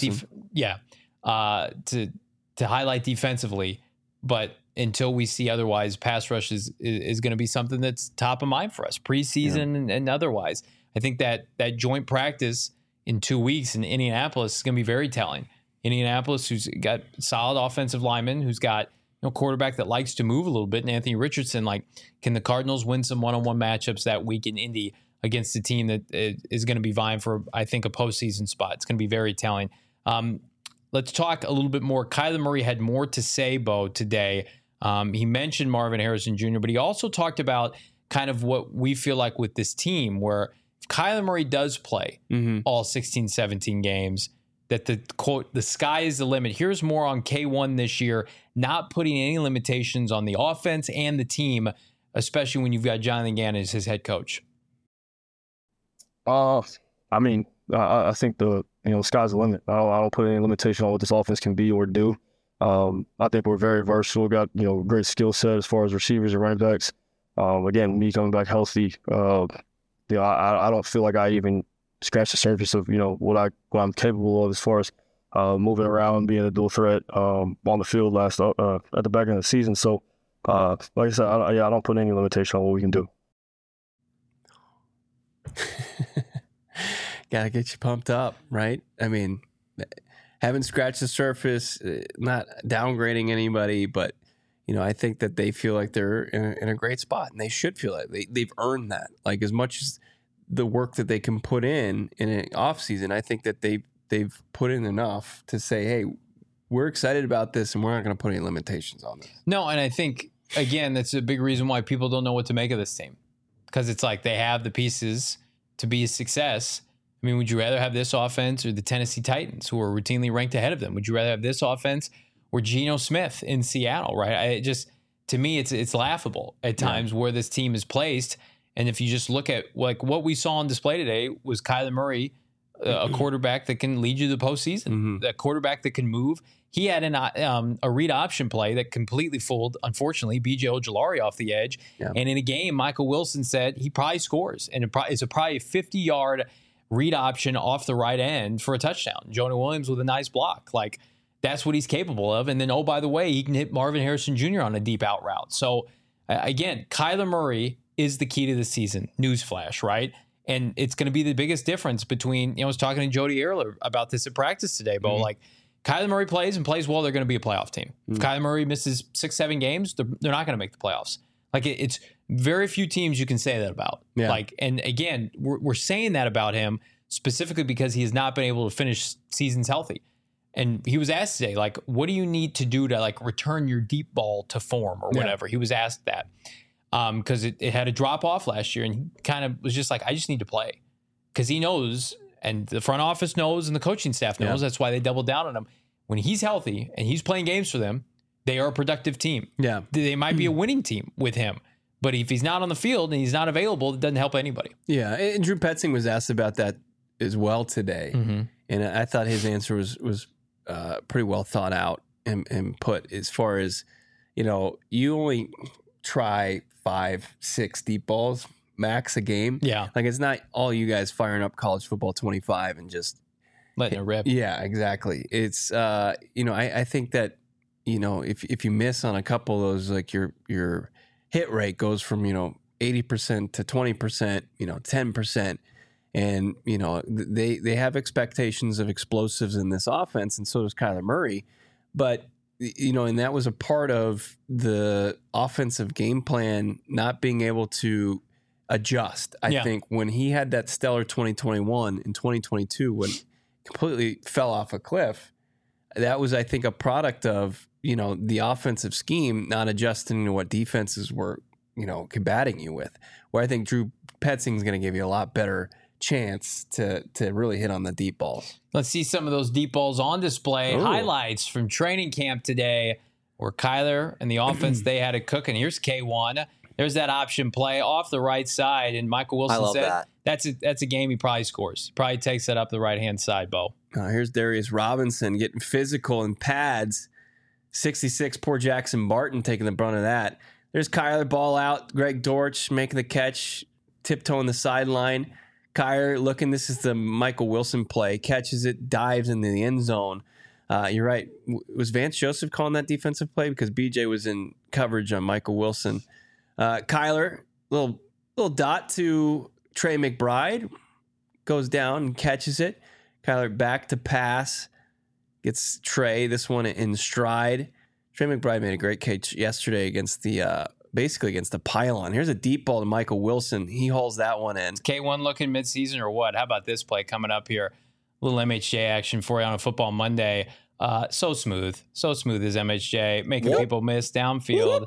To highlight defensively, but until we see otherwise, pass rush is going to be something that's top of mind for us preseason and otherwise. I think that joint practice in 2 weeks in Indianapolis is going to be very telling. Indianapolis, who's got solid offensive linemen, who's got quarterback that likes to move a little bit, and Anthony Richardson. Can the Cardinals win some one-on-one matchups that week in Indy? against a team that is going to be vying for, I think, a postseason spot. It's going to be very telling. Let's talk a little bit more. Kyler Murray had more to say, Bo, today. He mentioned Marvin Harrison Jr., but he also talked about kind of what we feel like with this team, where if Kyler Murray does play all 16, 17 games, that the quote, the sky is the limit. Here's more on K1 this year, not putting any limitations on the offense and the team, especially when you've got Jonathan Gannon as his head coach. I think the sky's the limit. I don't put any limitation on what this offense can be or do. I think we're very versatile. Got great skill set as far as receivers and running backs. Again, me coming back healthy, I don't feel like I even scratched the surface of what I'm capable of as far as moving around, being a dual threat on the field at the back end of the season. So, like I said, I don't put any limitation on what we can do. Gotta get you pumped up, right? I mean, haven't scratched the surface, not downgrading anybody, but I think that they feel like they're in a great spot, and they should feel like they've earned that. Like, as much as the work that they can put in an off season, I think that they've put in enough to say, hey, we're excited about this, and we're not going to put any limitations on this. No, and I think again that's a big reason why people don't know what to make of this team, because it's like they have the pieces to be a success. I mean, would you rather have this offense or the Tennessee Titans, who are routinely ranked ahead of them? Would you rather have this offense or Geno Smith in Seattle, right? To me, it's laughable at times where this team is placed. And if you just look at like what we saw on display today was Kyler Murray, a quarterback that can lead you to the postseason, a quarterback that can move. He had a read option play that completely fooled, unfortunately, B.J. Ojulari off the edge. Yeah. And in a game, Michael Wilson said he probably scores. And it's probably a 50-yard read option off the right end for a touchdown. Jonah Williams with a nice block. Like, that's what he's capable of. And then, oh, by the way, he can hit Marvin Harrison Jr. on a deep out route. So, again, Kyler Murray is the key to the season. Newsflash, right? And it's going to be the biggest difference between, I was talking to Jody Ehrler about this at practice today, Bo. Like, Kyler Murray plays well, they're going to be a playoff team. If Kyler Murray misses 6-7 games, they're not going to make the playoffs. Like, it's very few teams you can say that about. Yeah. Like, and again, we're saying that about him specifically because he has not been able to finish seasons healthy. And he was asked today, like, what do you need to do to like return your deep ball to form or whatever? He was asked that because it had a drop off last year, and he kind of was just like, I just need to play, because he knows, and the front office knows, and the coaching staff knows. That's why they doubled down on him. When he's healthy and he's playing games for them, they are a productive team. Yeah, they might be a winning team with him. But if he's not on the field and he's not available, it doesn't help anybody. Yeah, and Drew Petzing was asked about that as well today, and I thought his answer was pretty well thought out and put, as far as, you only try 5-6 deep balls max a game. Yeah, like, it's not all you guys firing up college football 25 and just letting it rip. Yeah, exactly. It's I think that if you miss on a couple of those, like your hit rate goes from 80% to 20%, 10%. And, they have expectations of explosives in this offense, and so does Kyler Murray. But, and that was a part of the offensive game plan not being able to adjust. I think when he had that stellar 2021 and 2022, when completely fell off a cliff, that was, I think, a product of, the offensive scheme not adjusting to what defenses were, combating you with. Where I think Drew Petzing is going to give you a lot better chance to really hit on the deep balls. Let's see some of those deep balls on display. Ooh. Highlights from training camp today, where Kyler and the offense, they had it cooking. Here's K1. There's that option play off the right side, and Michael Wilson said that's a game he probably scores. He probably takes that up the right-hand side, Bo. Here's Darius Robinson getting physical in pads. 66, poor Jackson Barton taking the brunt of that. There's Kyler, ball out. Greg Dortch making the catch, tiptoeing the sideline. Kyler looking, this is the Michael Wilson play, catches it, dives into the end zone. You're right. Was Vance Joseph calling that defensive play? Because BJ was in coverage on Michael Wilson. Kyler, little dot to Trey McBride, goes down and catches it. Kyler back to pass, gets Trey, this one in stride. Trey McBride made a great catch yesterday against the basically against the pylon. Here's a deep ball to Michael Wilson. He hauls that one in. K1 looking midseason or what? How about this play coming up here? A little MHJ action for you on a football Monday. So smooth is MHJ, making people miss downfield.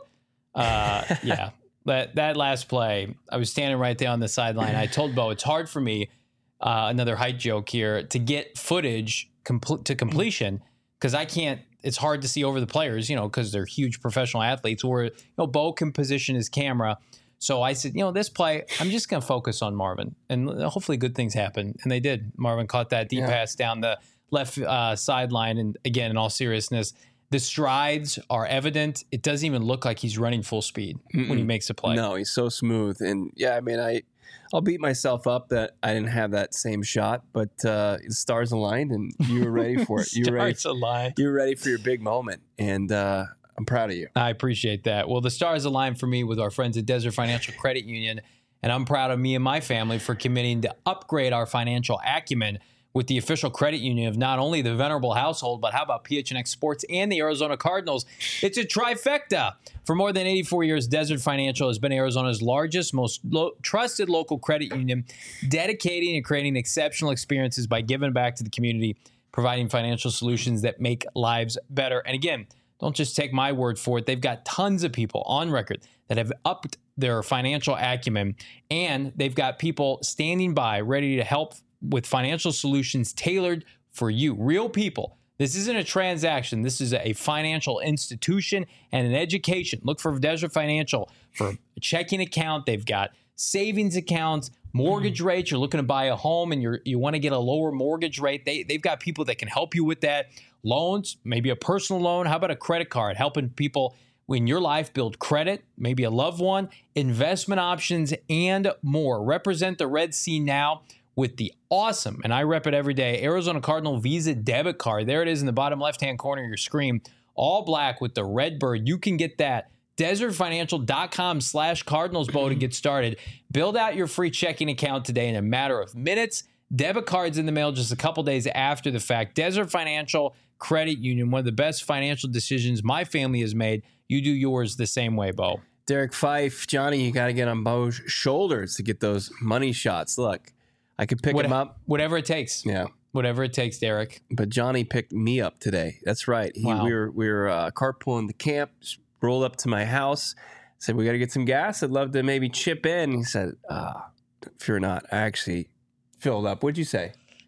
Yeah, that last play, I was standing right there on the sideline. I told Bo, it's hard for me, another height joke here, to get footage to completion because I can't. It's hard to see over the players, because they're huge professional athletes. Where Bo can position his camera. So I said, this play, I'm just going to focus on Marvin, and hopefully good things happen. And they did. Marvin caught that deep pass down the left sideline. And again, in all seriousness, the strides are evident. It doesn't even look like he's running full speed when he makes a play. No, he's so smooth. And yeah, I mean, I'll beat myself up that I didn't have that same shot, but the stars aligned and you were ready for it. You were ready for your big moment. And I'm proud of you. I appreciate that. Well, the stars aligned for me with our friends at Desert Financial Credit Union, and I'm proud of me and my family for committing to upgrade our financial acumen with the official credit union of not only the Venerable household, but how about PHNX Sports and the Arizona Cardinals? It's a trifecta. For more than 84 years, Desert Financial has been Arizona's largest, most trusted local credit union, dedicating and creating exceptional experiences by giving back to the community, providing financial solutions that make lives better. And again, don't just take my word for it. They've got tons of people on record that have upped their financial acumen, and they've got people standing by ready to help with financial solutions tailored for you. Real people. This isn't a transaction. This is a financial institution and an education. Look for Desert Financial for a checking account. They've got savings accounts, mortgage rates. You're looking to buy a home and you want to get a lower mortgage rate. They've got people that can help you with that. Loans, maybe a personal loan. How about a credit card? Helping people in your life build credit, maybe a loved one, investment options, and more. Represent the Red Sea now with the awesome, and I rep it every day, Arizona Cardinal Visa debit card. There it is in the bottom left-hand corner of your screen. All black with the red bird. You can get that. DesertFinancial.com/CardinalsBo to get started. Build out your free checking account today in a matter of minutes. Debit cards in the mail just a couple days after the fact. Desert Financial Credit Union, one of the best financial decisions my family has made. You do yours the same way, Bo. Derek Fife, Johnny, you got to get on Bo's shoulders to get those money shots. Look, I could pick him up. Whatever it takes. Yeah. Whatever it takes, Derek. But Johnny picked me up today. That's right. Wow. We were carpooling the camp, rolled up to my house, said, we got to get some gas. I'd love to maybe chip in. He said, fear not. I actually filled up. What'd you say?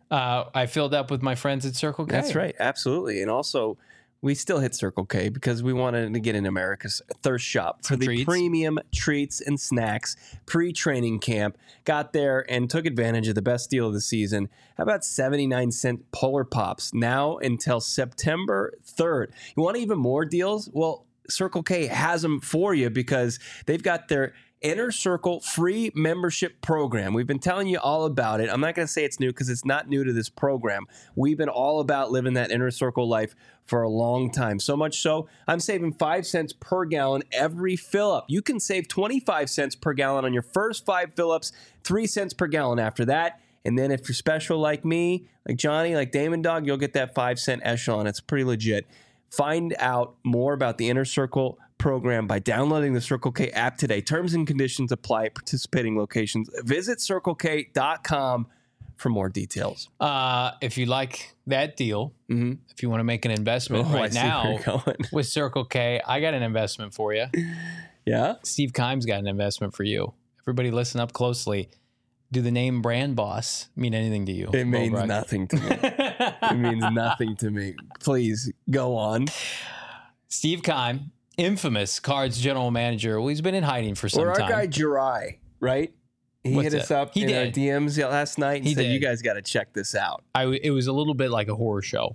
I filled up with my friends at Circle K. That's right. Absolutely. And also, we still hit Circle K because we wanted to get in America's thirst shop for the premium treats and snacks pre-training camp. Got there and took advantage of the best deal of the season. How about 79-cent Polar Pops now until September 3rd? You want even more deals? Well, Circle K has them for you because they've got their Inner Circle free membership program. We've been telling you all about it. I'm not going to say it's new because it's not new to this program. We've been all about living that Inner Circle life for a long time. So much so, I'm saving 5 cents per gallon every fill up. You can save 25 cents per gallon on your first 5 fill ups, 3 cents per gallon after that. And then if you're special like me, like Johnny, like Damon Dog, you'll get that 5 cent echelon. It's pretty legit. Find out more about the Inner Circle program by downloading the Circle K app today. Terms and conditions apply at participating locations. Visit CircleK.com for more details. If you like that deal, if you want to make an investment right now with Circle K, I got an investment for you. Yeah? Steve Kimes got an investment for you. Everybody listen up closely. Do the name Brand Boss mean anything to you? It means nothing to me. It means nothing to me. Please go on. Steve Keim, infamous Cards general manager. Well, he's been in hiding for some time. Or our guy Jirai, right? He hit us up in our DMs last night and said, you guys got to check this out. It was a little bit like a horror show.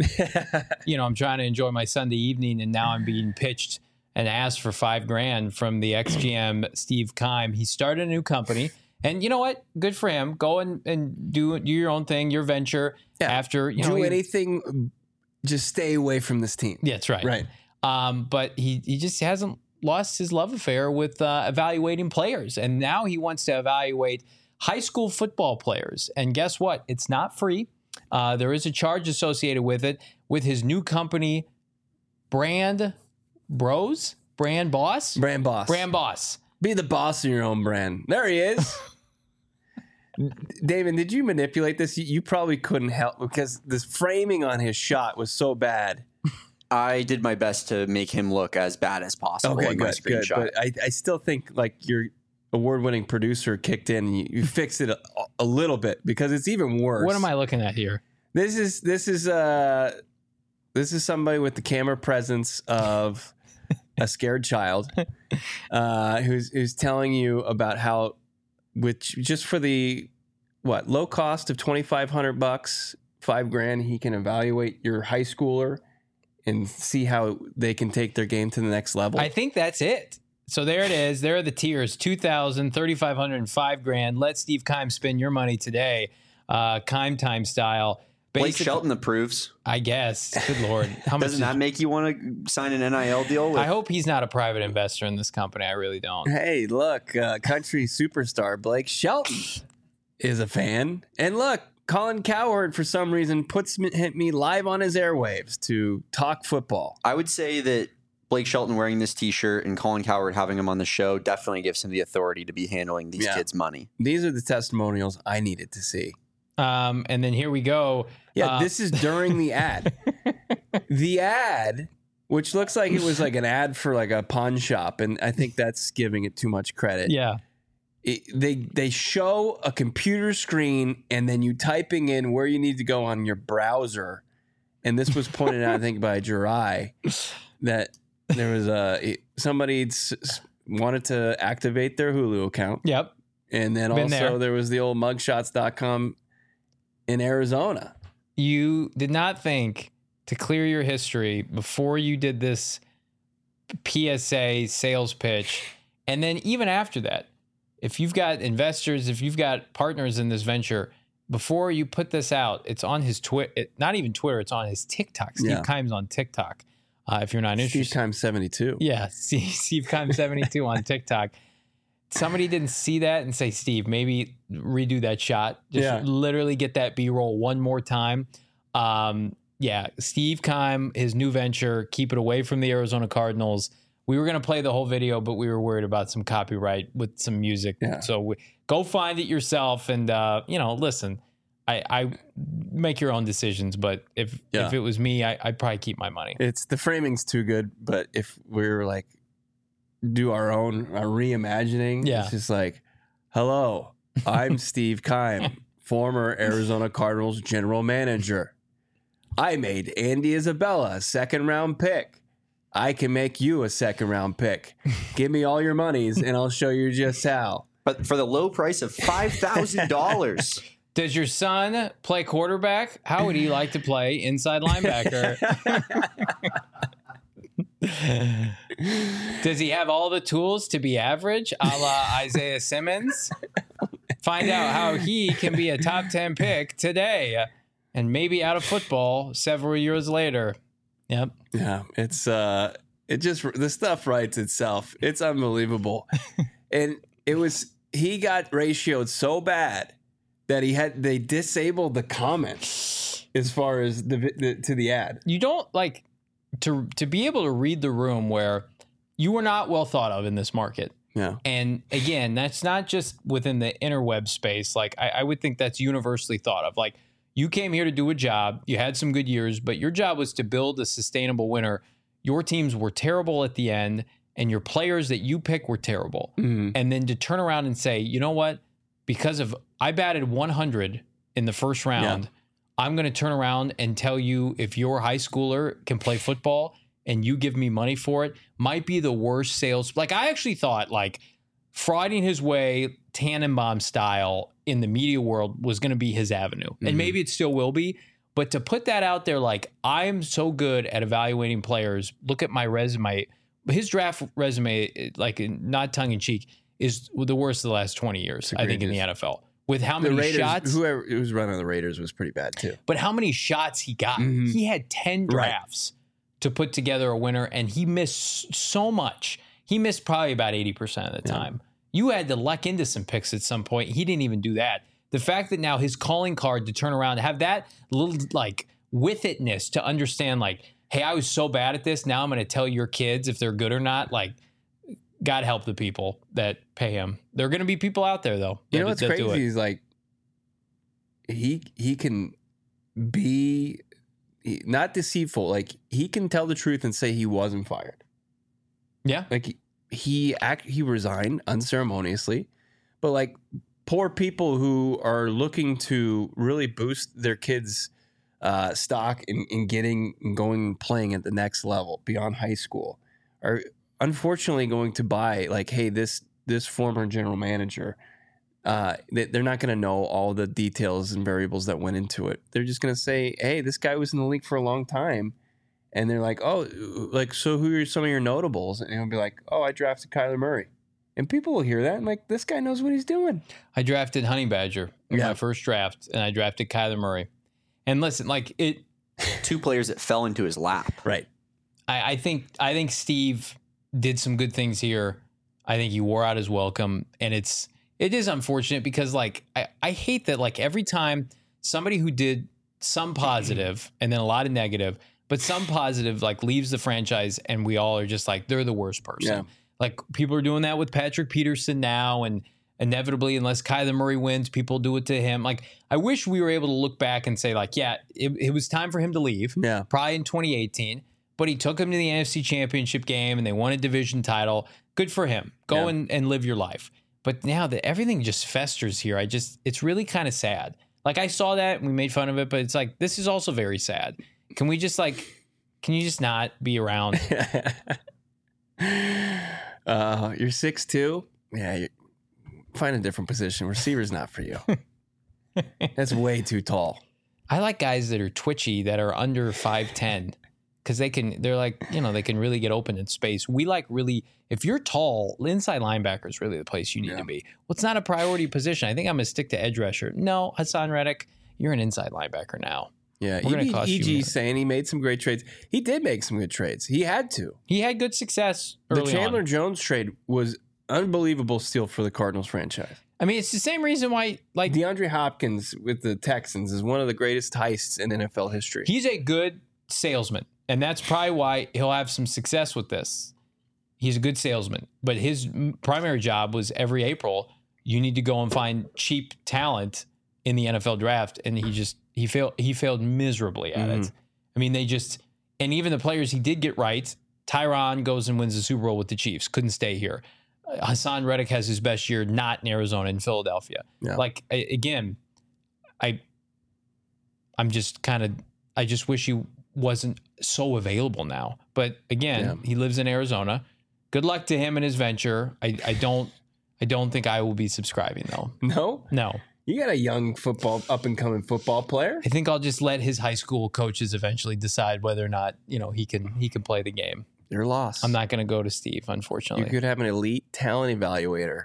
I'm trying to enjoy my Sunday evening, and now I'm being pitched and asked for $5,000 from the ex-GM Steve Keim. He started a new company. And you know what? Good for him. Go and do your own thing, your venture. Yeah. After do anything, just stay away from this team. Yeah, that's right. Right. But he just hasn't lost his love affair with evaluating players, and now he wants to evaluate high school football players. And guess what? It's not free. There is a charge associated with it. With his new company, Brand Brand boss? Brand boss. Brand boss. Be the boss of your own brand. There he is. Damon, did you manipulate this? You probably couldn't help because this framing on his shot was so bad. I did my best to make him look as bad as possible in my screenshot. But I still think like your award-winning producer kicked in and you fixed it a little bit because it's even worse. What am I looking at here? This is somebody with the camera presence of a scared child who's telling you about how, which just for the low cost of $2,500, $5,000, he can evaluate your high schooler and see how they can take their game to the next level. I think that's it. So there it is. There are the tiers: $2,000, $3,500, and $5,000. Let Steve Keim spend your money today, Keim time style. Blake Shelton approves. I guess. Good Lord. How much Doesn't that make you want to sign an NIL deal? I hope he's not a private investor in this company. I really don't. Hey, look, country superstar Blake Shelton is a fan. And look, Colin Cowherd, for some reason, hit me live on his airwaves to talk football. I would say that Blake Shelton wearing this T-shirt and Colin Cowherd having him on the show definitely gives him the authority to be handling these kids' money. These are the testimonials I needed to see. And then here we go. Yeah, this is during the ad. The ad, which looks like it was like an ad for like a pawn shop, and I think that's giving it too much credit. Yeah. They show a computer screen and then you typing in where you need to go on your browser. And this was pointed out, I think, by Jirai, that there was somebody wanted to activate their Hulu account. Yep. And then also there was the old mugshots.com in Arizona. You did not think to clear your history before you did this PSA sales pitch. And then even after that, if you've got investors, if you've got partners in this venture, before you put this out, it's on his Twitter, not even Twitter, it's on his TikTok. Steve Keim's on TikTok. If you're not interested. Steve Keim 72. Yeah, Steve Keim 72 on TikTok. Somebody didn't see that and say, Steve, maybe redo that shot. Just literally get that B-roll one more time. Steve Keim, his new venture, keep it away from the Arizona Cardinals. We were going to play the whole video, but we were worried about some copyright with some music. Yeah. So go find it yourself and, listen, I make your own decisions, but if it was me, I'd probably keep my money. The framing's too good, but if we were like, do our reimagining, it's just like, hello, I'm Steve Keim, former Arizona Cardinals general manager. I made Andy Isabella a 2nd-round pick. I can make you a 2nd-round pick. Give me all your monies and I'll show you just how. But for the low price of $5,000. Does your son play quarterback? How would he like to play inside linebacker? Does he have all the tools to be average, a la Isaiah Simmons? Find out how he can be a top 10 pick today and maybe out of football several years later. Yep. Yeah, it's the stuff writes itself. It's unbelievable. And he got ratioed so bad that they disabled the comments as far as to the ad. You don't like to be able to read the room where you were not well thought of in this market. Yeah. And again, that's not just within the interweb space. Like I would think that's universally thought of. Like, you came here to do a job. You had some good years, but your job was to build a sustainable winner. Your teams were terrible at the end, and your players that you pick were terrible. Mm-hmm. And then to turn around and say, you know what? Because I batted 100 in the first round, I'm going to turn around and tell you if your high schooler can play football and you give me money for it, might be the worst sales. Like, I actually thought, like, frauding his way Tannenbaum style in the media world was going to be his avenue. Mm-hmm. And maybe it still will be. But to put that out there, like, I'm so good at evaluating players. Look at my resume. His draft resume, like, not tongue in cheek, is the worst of the last 20 years, I think, in the NFL. With how many shots? Whoever was running the Raiders was pretty bad, too. But how many shots he got? Mm-hmm. He had 10 drafts to put together a winner, and he missed so much. He missed probably about 80% of the time. You had to luck into some picks at some point. He didn't even do that. The fact that now his calling card to turn around, have that little, like, with itness to understand, like, hey, I was so bad at this. Now I'm going to tell your kids if they're good or not. Like, God help the people that pay him. There are going to be people out there, though. You know what's that do crazy it. is like he can be not deceitful. Like he can tell the truth and say he wasn't fired. Yeah. Like he resigned unceremoniously, but like poor people who are looking to really boost their kids' stock in getting and going and playing at the next level beyond high school are unfortunately going to buy like, hey, this former general manager, they're not going to know all the details and variables that went into it. They're just going to say, hey, this guy was in the league for a long time. And they're like, oh, like, so who are some of your notables? And he'll be like, oh, I drafted Kyler Murray. And people will hear that and like, this guy knows what he's doing. I drafted Honey Badger in Yeah. my first draft, and I drafted Kyler Murray. And listen, like it, 2 players that fell into his lap. Right. I think Steve did some good things here. I think he wore out his welcome, and it is unfortunate because like I hate that like every time somebody who did some positive and then a lot of negative, but some positive like leaves the franchise, and we all are just like they're the worst person. Yeah. Like people are doing that with Patrick Peterson now, and inevitably, unless Kyler Murray wins, people do it to him. Like I wish we were able to look back and say like, yeah, it was time for him to leave. Yeah. Probably in 2018. But he took him to the NFC Championship game and they won a division title. Good for him. Go and live your life. But now that everything just festers here, it's really kind of sad. Like I saw that and we made fun of it, but it's like, this is also very sad. Can you just not be around? You're 6'2". Yeah. Find a different position. Receiver's not for you. That's way too tall. I like guys that are twitchy that are under 5'10". Because they can really get open in space. We like really, if you're tall, inside linebacker is really the place you need to be. Well, it's not a priority position. I think I'm going to stick to edge rusher. No, Hassan Reddick, you're an inside linebacker now. Yeah, We're gonna cost you. EG's saying he made some great trades. He did make some good trades. He had to. He had good success early The Chandler on. Jones trade was unbelievable steal for the Cardinals franchise. I mean, it's the same reason why, like, DeAndre Hopkins with the Texans is one of the greatest heists in NFL history. he's a good salesman. And that's probably why he'll have some success with this. He's a good salesman. But his primary job was every April, you need to go and find cheap talent in the NFL draft. And he failed miserably at it. I mean, and even the players he did get right, Tyron goes and wins the Super Bowl with the Chiefs, couldn't stay here. Hassan Reddick has his best year not in Arizona, in Philadelphia. Yeah. Like, again, I just wish he wasn't so available now. But again, he lives in Arizona. Good luck to him and his venture. I don't think I will be subscribing though. No. You got a young up and coming football player. I think I'll just let his high school coaches eventually decide whether or not, he can play the game. Your loss. I'm not going to go to Steve, unfortunately. You could have an elite talent evaluator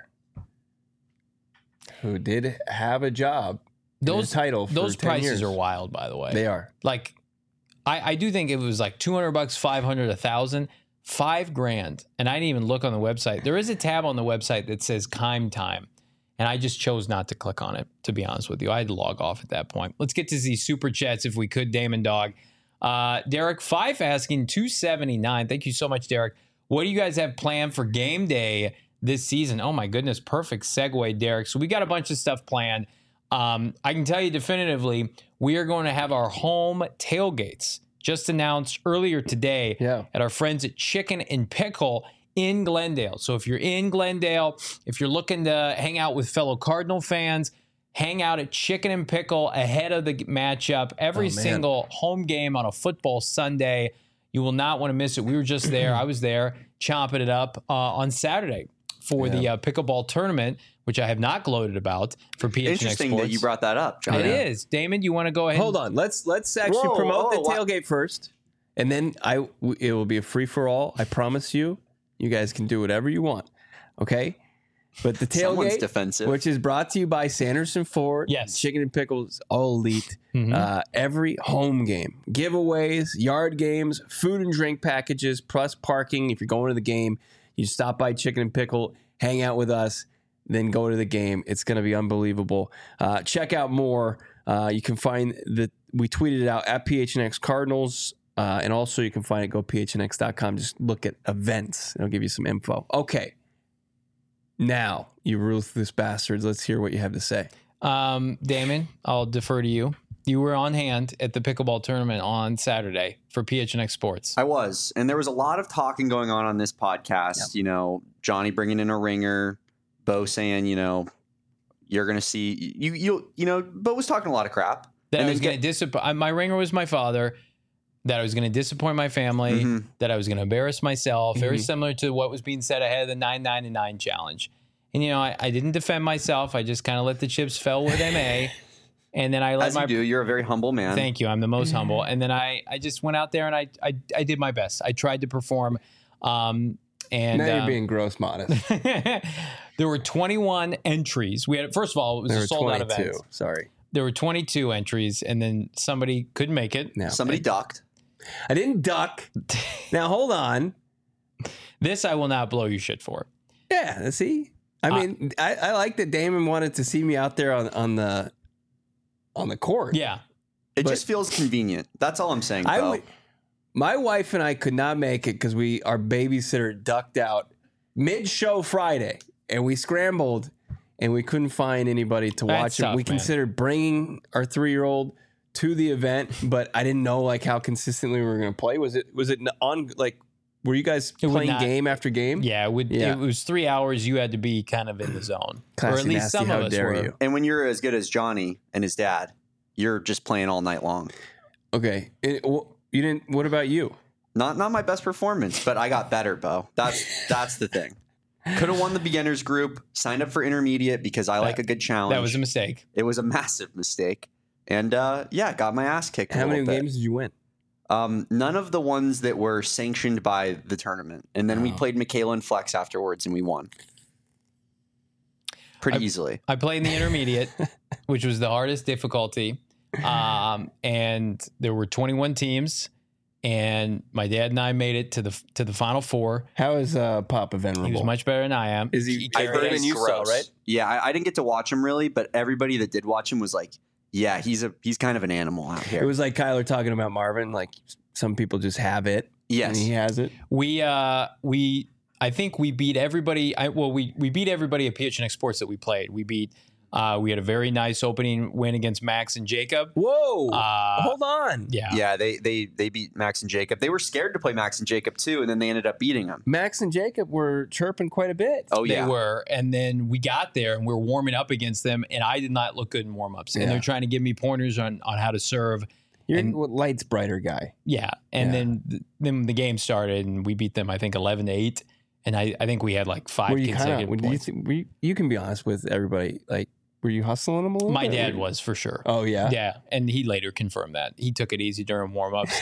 who did have a job. Those title. For those 10 prices years. are wild, by the way. They are. Like, I do think it was like $200, $500, $1,000, $5,000, and I didn't even look on the website. There is a tab on the website that says Kime Time, and I just chose not to click on it, to be honest with you. I had to log off at that point. Let's get to these super chats if we could, Damon Dog. Derek Fife asking $279. Thank you so much, Derek. What do you guys have planned for game day this season? Oh my goodness, perfect segue, Derek. So we got a bunch of stuff planned. I can tell you definitively, we are going to have our home tailgates just announced earlier today at our friends at Chicken and Pickle in Glendale. So if you're in Glendale, if you're looking to hang out with fellow Cardinal fans, hang out at Chicken and Pickle ahead of the matchup. Every single home game on a football Sunday. You will not want to miss it. We were just there. I was there chomping it up on Saturday for the pickleball tournament, which I have not gloated about for PHNX Interesting Sports. that you brought that up, John. It is. Damon, you want to go ahead? Hold on. Let's actually promote the tailgate first, and then it will be a free for all. I promise you. You guys can do whatever you want. Okay. But the Someone's tailgate, defensive. which is brought to you by Sanderson Ford, Chicken and Pickles, all elite. Every home game, giveaways, yard games, food and drink packages, plus parking. If you're going to the game, you stop by Chicken and Pickle, hang out with us, then go to the game. It's going to be unbelievable. Check out more. You can find we tweeted it out at PHNX Cardinals And also you can find it, go phnx.com. Just look at events. It'll give you some info. Okay. Now, you ruthless bastards, let's hear what you have to say. Damon, I'll defer to you. You were on hand at the pickleball tournament on Saturday for PHNX Sports. I was, and there was a lot of talking going on this podcast. Yep. You know, Johnny bringing in a ringer, Bo saying, you know, you're going to see you know, Bo was talking a lot of crap. That and I was going to disappoint. My ringer was my father. That I was going to disappoint my family. Mm-hmm. That I was going to embarrass myself. Very similar to what was being said ahead of the 9-9-9 challenge. And you know, I didn't defend myself. I just kind of let the chips fall with MA. And then I let As you do, you're a very humble man. Thank you. I'm the most humble. And then I just went out there and I did my best. I tried to perform. And now you're being gross modest. there were 21 entries. We had, first of all, it was There a were sold out 22. event. Sorry. There were 22 entries, and then somebody couldn't make it. No. Somebody ducked. I didn't duck. Now, hold on. This I will not blow you shit for. Yeah, see? I mean, I like that Damon wanted to see me out there on the court. Yeah. It But- just feels convenient. That's all I'm saying, Bo. My wife and I could not make it because our babysitter ducked out mid-show Friday, and we scrambled, and we couldn't find anybody to That's watch it. tough, We man. considered bringing our 3-year-old to the event, but I didn't know like how consistently we were going to play. Was it on like? Were you guys It would playing not- game after game? Yeah, it would. Yeah. It was 3 hours. You had to be kind of in the zone, Classy or at least nasty, some how of us dare were. you. And when you're as good as Johnny and his dad, you're just playing all night long. Okay. You didn't. What about you? Not my best performance, but I got better, Bo. That's the thing. Could have won the beginners group, signed up for intermediate because I like a good challenge. That was a mistake. It was a massive mistake. And got my ass kicked. How a many little bit. games did you win? None of the ones that were sanctioned by the tournament. And then we played Michaela and Flex afterwards, and we won pretty easily. I played in the intermediate, which was the hardest difficulty. And there were 21 teams, and my dad and I made it to the final four. How is Papa venerable? He was much better than I am. Is he? I heard Him and he's you saw, gross. right? Yeah, I didn't get to watch him really, but everybody that did watch him was like, yeah, he's kind of an animal out here. It was like Kyler talking about Marvin. Like some people just have it. Yes. And he has it. I think we beat everybody. We beat everybody at PHNX Sports that we played. We had a very nice opening win against Max and Jacob. Whoa! Hold on. Yeah. Yeah, they beat Max and Jacob. They were scared to play Max and Jacob too, and then they ended up beating them. Max and Jacob were chirping quite a bit. Oh yeah, They were. And then we got there and we were warming up against them, and I did not look good in warm-ups. And Yeah. they're trying to give me pointers on how to serve. You're and- a lights brighter guy. Yeah. And Yeah. then the game started and we beat them, I think, 11-8. And I think we had like 5 Were you consecutive kind of? points. You can be honest with everybody. Like, were you hustling them a little? My bit? dad was, for sure. Oh yeah. Yeah, and he later confirmed that he took it easy during warm-ups.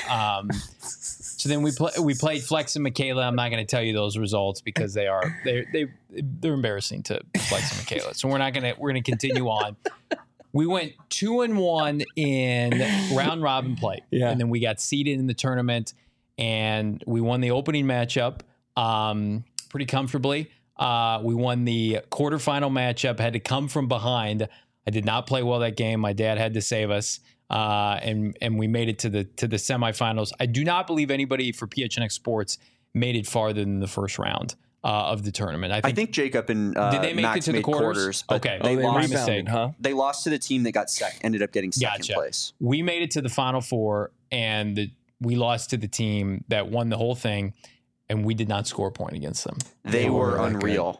So then we played Flex and Michaela. I'm not going to tell you those results because they're embarrassing to Flex and Michaela. So we're going to continue on. We went 2-1 in round robin play, Yeah. and then we got seeded in the tournament, and we won the opening matchup pretty comfortably. We won the quarterfinal matchup, had to come from behind. I did not play well that game. My dad had to save us. And we made it to the semifinals. I do not believe anybody for PHNX Sports made it farther than the first round of the tournament. I think Jacob and did they make Max it to the made quarters? but Okay. they Oh, lost. my rebounded, mistake. huh? They lost to the team that got ended up getting second Gotcha. place. We made it to the final four, and we lost to the team that won the whole thing, and we did not score a point against them. They were that good. unreal.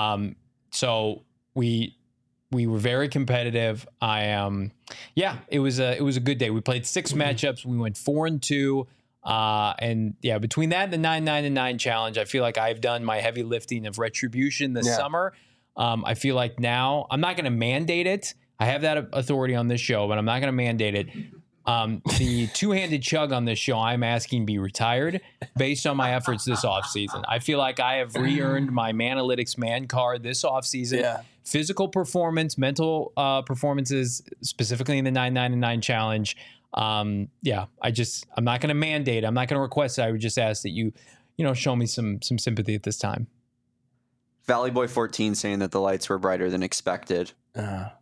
So we were very competitive. It was a good day. We played 6 matchups. We went 4-2. And yeah, between that and the 9-9-9 challenge, I feel like I've done my heavy lifting of retribution this summer. I feel like now I'm not going to mandate it. I have that authority on this show, but I'm not going to mandate it. The two-handed chug on this show, I'm asking be retired based on my efforts this offseason. I feel like I have re-earned my Manalytics man card this offseason. Yeah. Physical performance, mental performances, specifically in the 9-9-9 challenge. I'm not going to mandate. I'm not going to request it. I would just ask that you show me some sympathy at this time. Valley Boy 14 saying that the lights were brighter than expected.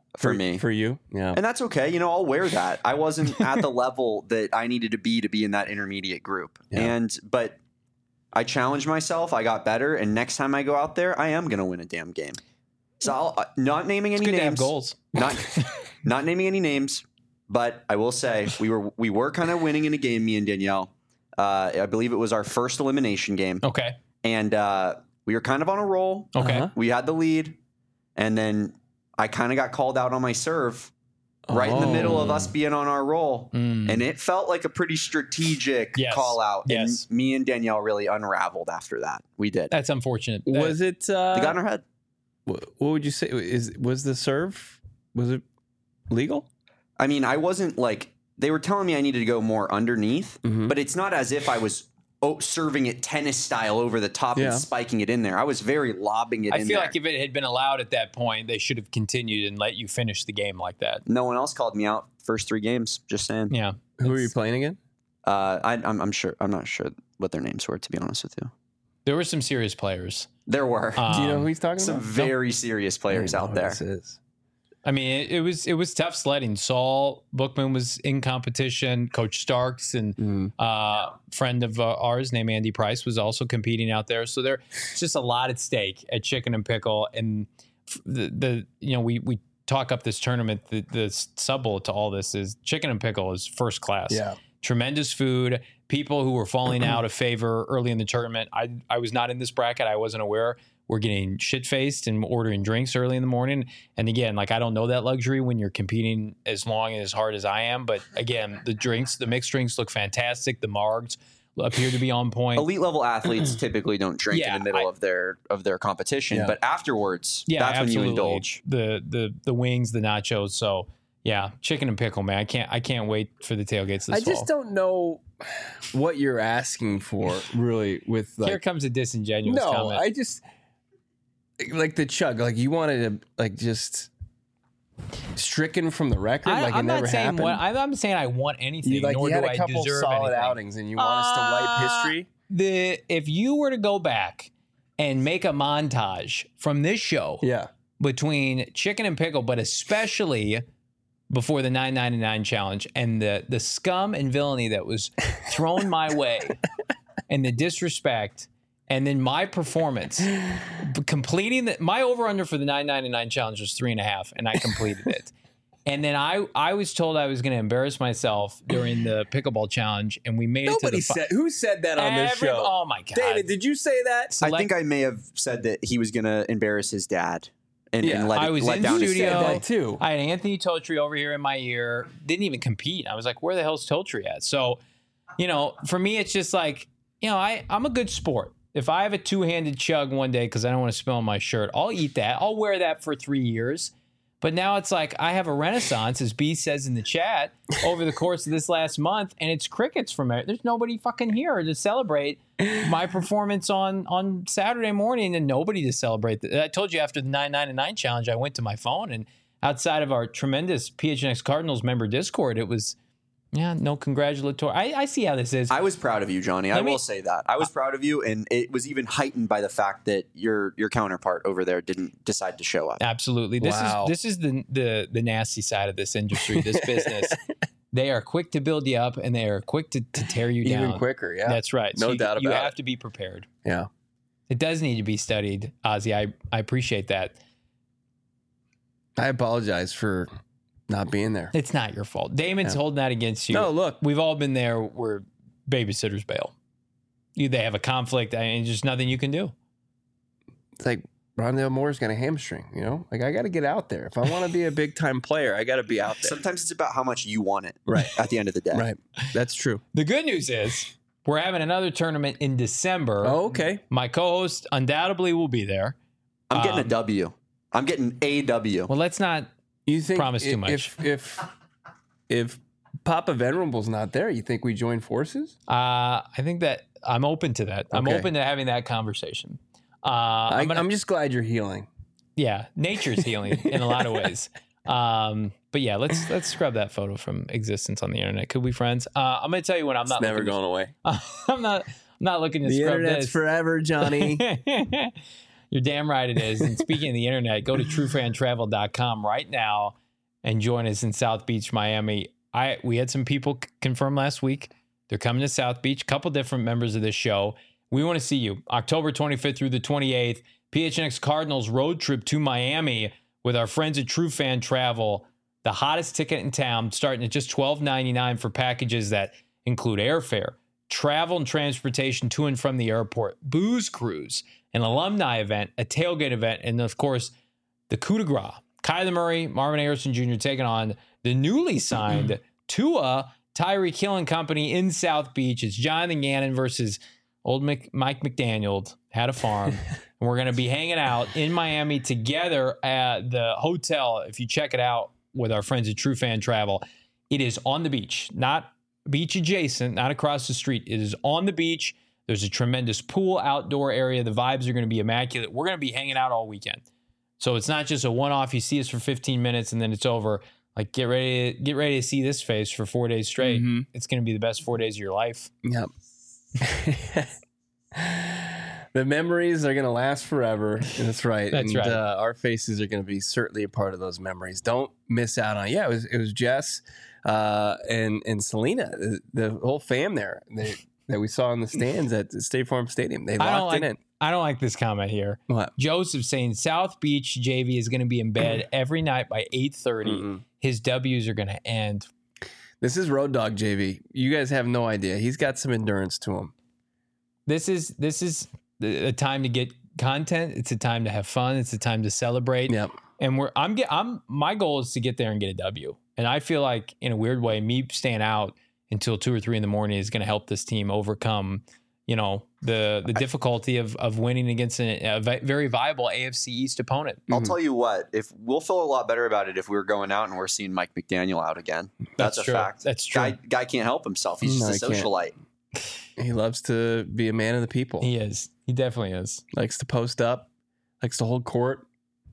for me. For you? Yeah. And that's okay. I'll wear that. I wasn't at the level that I needed to be in that intermediate group. Yeah. But I challenged myself. I got better. And next time I go out there, I am going to win a damn game. So I'll not naming any It's good names. to have goals. Not naming any names, but I will say we were kind of winning in a game, me and Danielle. I believe it was our first elimination game. Okay. And we were kind of on a roll. Okay. We had the lead. And then I kind of got called out on my serve right in the middle of us being on our roll. And it felt like a pretty strategic call out. Yes. And me and Danielle really unraveled after that. We did. That's unfortunate. Was it? They got in our head. What would you say? Was the serve? Was it legal? I mean, I wasn't like, they were telling me I needed to go more underneath, but it's not as if I was serving it tennis style over the top and spiking it in there. I was very lobbing it in there. I feel like if it had been allowed at that point, they should have continued and let you finish the game like that. No one else called me out first 3 games. Just saying. Yeah. Who are you playing again? I'm sure. I'm not sure what their names were, to be honest with you. There were some serious players. There were. Do you know who he's talking some about? very serious players out there. This is. I mean, it was tough sledding. Saul Bookman was in competition. Coach Starks and friend of ours named Andy Price was also competing out there. So there's just a lot at stake at Chicken and Pickle. And we talk up this tournament. The sub bullet to all this is Chicken and Pickle is first class. Yeah. Tremendous food. People who were falling out of favor early in the tournament. I was not in this bracket. I wasn't aware. We're getting shit-faced and ordering drinks early in the morning. And again, like I don't know that luxury when you're competing as long and as hard as I am. But again, the mixed drinks look fantastic. The margs appear to be on point. Elite level athletes typically don't drink in the middle of their competition, but afterwards, that's absolutely. when you indulge. The wings, the nachos. So yeah, Chicken and Pickle, man. I can't wait for the tailgates this fall. I just don't know what you're asking for, really. With Here comes a disingenuous comment. I just like the chug. Like you wanted to like just stricken from the record. Like I'm it never not saying happened. I'm saying I want anything. You nor had do a couple I deserve solid anything. outings, and you want us to wipe history. If you were to go back and make a montage from this show, between Chicken and Pickle, but especially before the $9.99 challenge and the scum and villainy that was thrown my way and the disrespect, and then my performance completing my over-under for the $9.99 challenge was 3.5, and I completed it. And then I was told I was going to embarrass myself during the pickleball challenge, and we made it to the said who said that on this show. Oh my god, David, did you say that? I think I may have said that he was going to embarrass his dad. And I was in down his studio family. too. I had Anthony Totri over here in my ear. Didn't even compete. I was like, where the hell's Totri at? So, for me, it's just like, I'm a good sport. If I have a two-handed chug one day because I don't want to spill on my shirt, I'll eat that. I'll wear that for 3 years. But now it's like I have a renaissance, as B says in the chat, over the course of this last month, and it's crickets from it. There's nobody fucking here to celebrate my performance on Saturday morning, and nobody to celebrate. I told you after the 999 challenge, I went to my phone, and outside of our tremendous PHNX Cardinals member Discord, it was, no congratulatory. I see how this is. I was proud of you, Johnny. I will say that. I was proud of you, and it was even heightened by the fact that your counterpart over there didn't decide to show up. Absolutely. This is the nasty side of this industry, this business. They are quick to build you up, and they are quick to tear you down. Even quicker, yeah. That's right. No doubt about it. You have to be prepared. Yeah. It does need to be studied, Ozzy. I appreciate that. I apologize for not being there. It's not your fault. Damon's holding that against you. No, look. We've all been there where babysitters bail. They have a conflict, and just nothing you can do. It's like Rondale Moore's got a hamstring, Like, I got to get out there. If I want to be a big-time player, I got to be out there. Sometimes it's about how much you want it at the end of the day. Right. That's true. The good news is we're having another tournament in December. Oh, okay. My co-host undoubtedly will be there. I'm getting a W. I'm getting a W. Well, let's not promise too much. If Papa Venerable's not there, you think we join forces? I think that I'm open to that. I'm Okay. open to having that conversation. I'm just glad you're healing. Yeah, nature's healing in a lot of ways. But yeah, let's scrub that photo from existence on the internet. Could we friends? I'm gonna tell you when I'm not. It's never going away. I'm not looking to The scrub internet's this forever, Johnny. You're damn right it is. And speaking of the internet, go to truefantravel.com right now and join us in South Beach, Miami. We had some people confirm last week. They're coming to South Beach. A couple different members of this show. We want to see you. October 25th through the 28th, PHNX Cardinals road trip to Miami with our friends at True Fan Travel. The hottest ticket in town, starting at just $12.99 for packages that include airfare, travel and transportation to and from the airport, booze cruise, an alumni event, a tailgate event, and of course, the coup de grace. Kyler Murray, Marvin Harrison Jr. taking on the newly signed Tua, Tyreek Hill and company in South Beach. It's Jonathan Gannon versus old Mike McDaniel. Had a farm. And we're going to be hanging out in Miami together at the hotel. If you check it out with our friends at True Fan Travel, it is on the beach, not beach adjacent, not across the street. It is on the beach. There's a tremendous pool, outdoor area. The vibes are going to be immaculate. We're going to be hanging out all weekend. So it's not just a one-off. You see us for 15 minutes and then it's over. Like, get ready to see this face for 4 days straight. Mm-hmm. It's going to be the best 4 days of your life. Yep. The memories are going to last forever. That's right. That's right. Our faces are going to be certainly a part of those memories. Don't miss out on it. Yeah, it was Jess and Selena, the whole fam there that we saw in the stands at State Farm Stadium. They locked it in. I don't like this comment here. What? Joseph saying South Beach JV is going to be in bed every night by 8:30. Mm-hmm. His W's are going to end. This is Road Dog JV. You guys have no idea. He's got some endurance to him. This is a time to get content. It's a time to have fun. It's a time to celebrate. Yep. And my goal is to get there and get a W. And I feel like in a weird way, me staying out until 2 or 3 in the morning is going to help this team overcome, the difficulty of winning against a very viable AFC East opponent. I'll tell you what, if we'll feel a lot better about it if we were going out and we're seeing Mike McDaniel out again. That's a true. fact. That's true. Guy can't help himself. He's just a socialite. He loves to be a man of the people. He is. He definitely is. Likes to post up. Likes to hold court.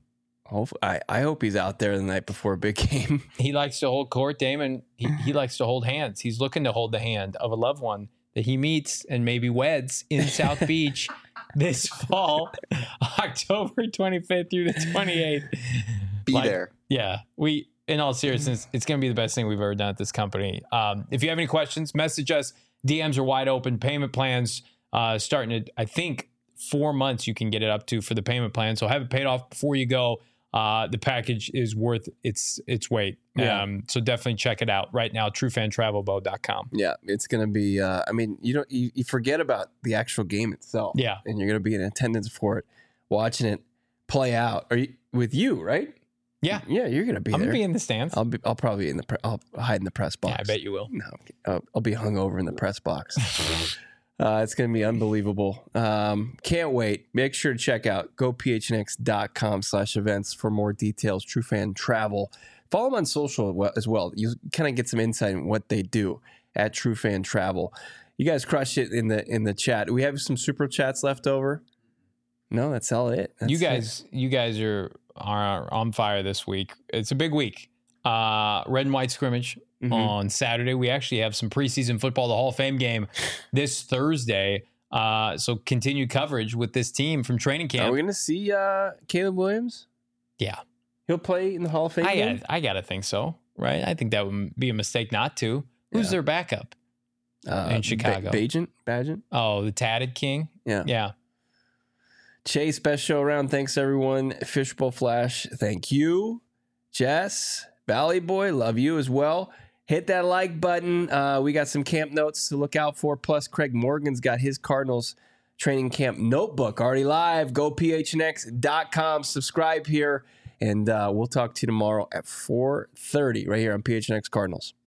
I hope he's out there the night before a big game. He likes to hold court, Damon. He likes to hold hands. He's looking to hold the hand of a loved one that he meets and maybe weds in South Beach this fall, October 25th through the 28th. Be there. Yeah. In all seriousness, it's going to be the best thing we've ever done at this company. If you have any questions, message us. DMs are wide open. Payment plans starting at, I think, 4 months you can get it up to for the payment plan. So have it paid off before you go. The package is worth its weight. Yeah. So definitely check it out right now, truefantravelboat.com. Yeah, it's going to be, you forget about the actual game itself. Yeah. And you're going to be in attendance for it, watching it play out. Are you with you, right? Yeah. Yeah, you're going to be there. I'm going to be in the stands. I'll probably be I'll hide in the press box. Yeah, I bet you will. No, I'll be hungover in the press box. It's going to be unbelievable. Can't wait. Make sure to check out gophnx.com/events for more details. True Fan Travel. Follow them on social as well. You kind of get some insight in what they do at True Fan Travel. You guys crushed it in the chat. Do we have some super chats left over? No, that's all it. You guys are on fire this week. It's a big week. Red and white scrimmage on Saturday. We actually have some preseason football, the Hall of Fame game this Thursday. So continued coverage with this team from training camp. Are we going to see Caleb Williams? Yeah. He'll play in the Hall of Fame game? I got to think so, right? I think that would be a mistake not to. Who's their backup in Chicago? Bagent? Oh, the tatted king? Yeah. Chase, best show around. Thanks, everyone. Fishbowl Flash, thank you. Jess, Valley Boy, love you as well. Hit that like button. We got some camp notes to look out for. Plus, Craig Morgan's got his Cardinals training camp notebook already live. Go phnx.com. Subscribe here. And we'll talk to you tomorrow at 4:30 right here on PHNX Cardinals.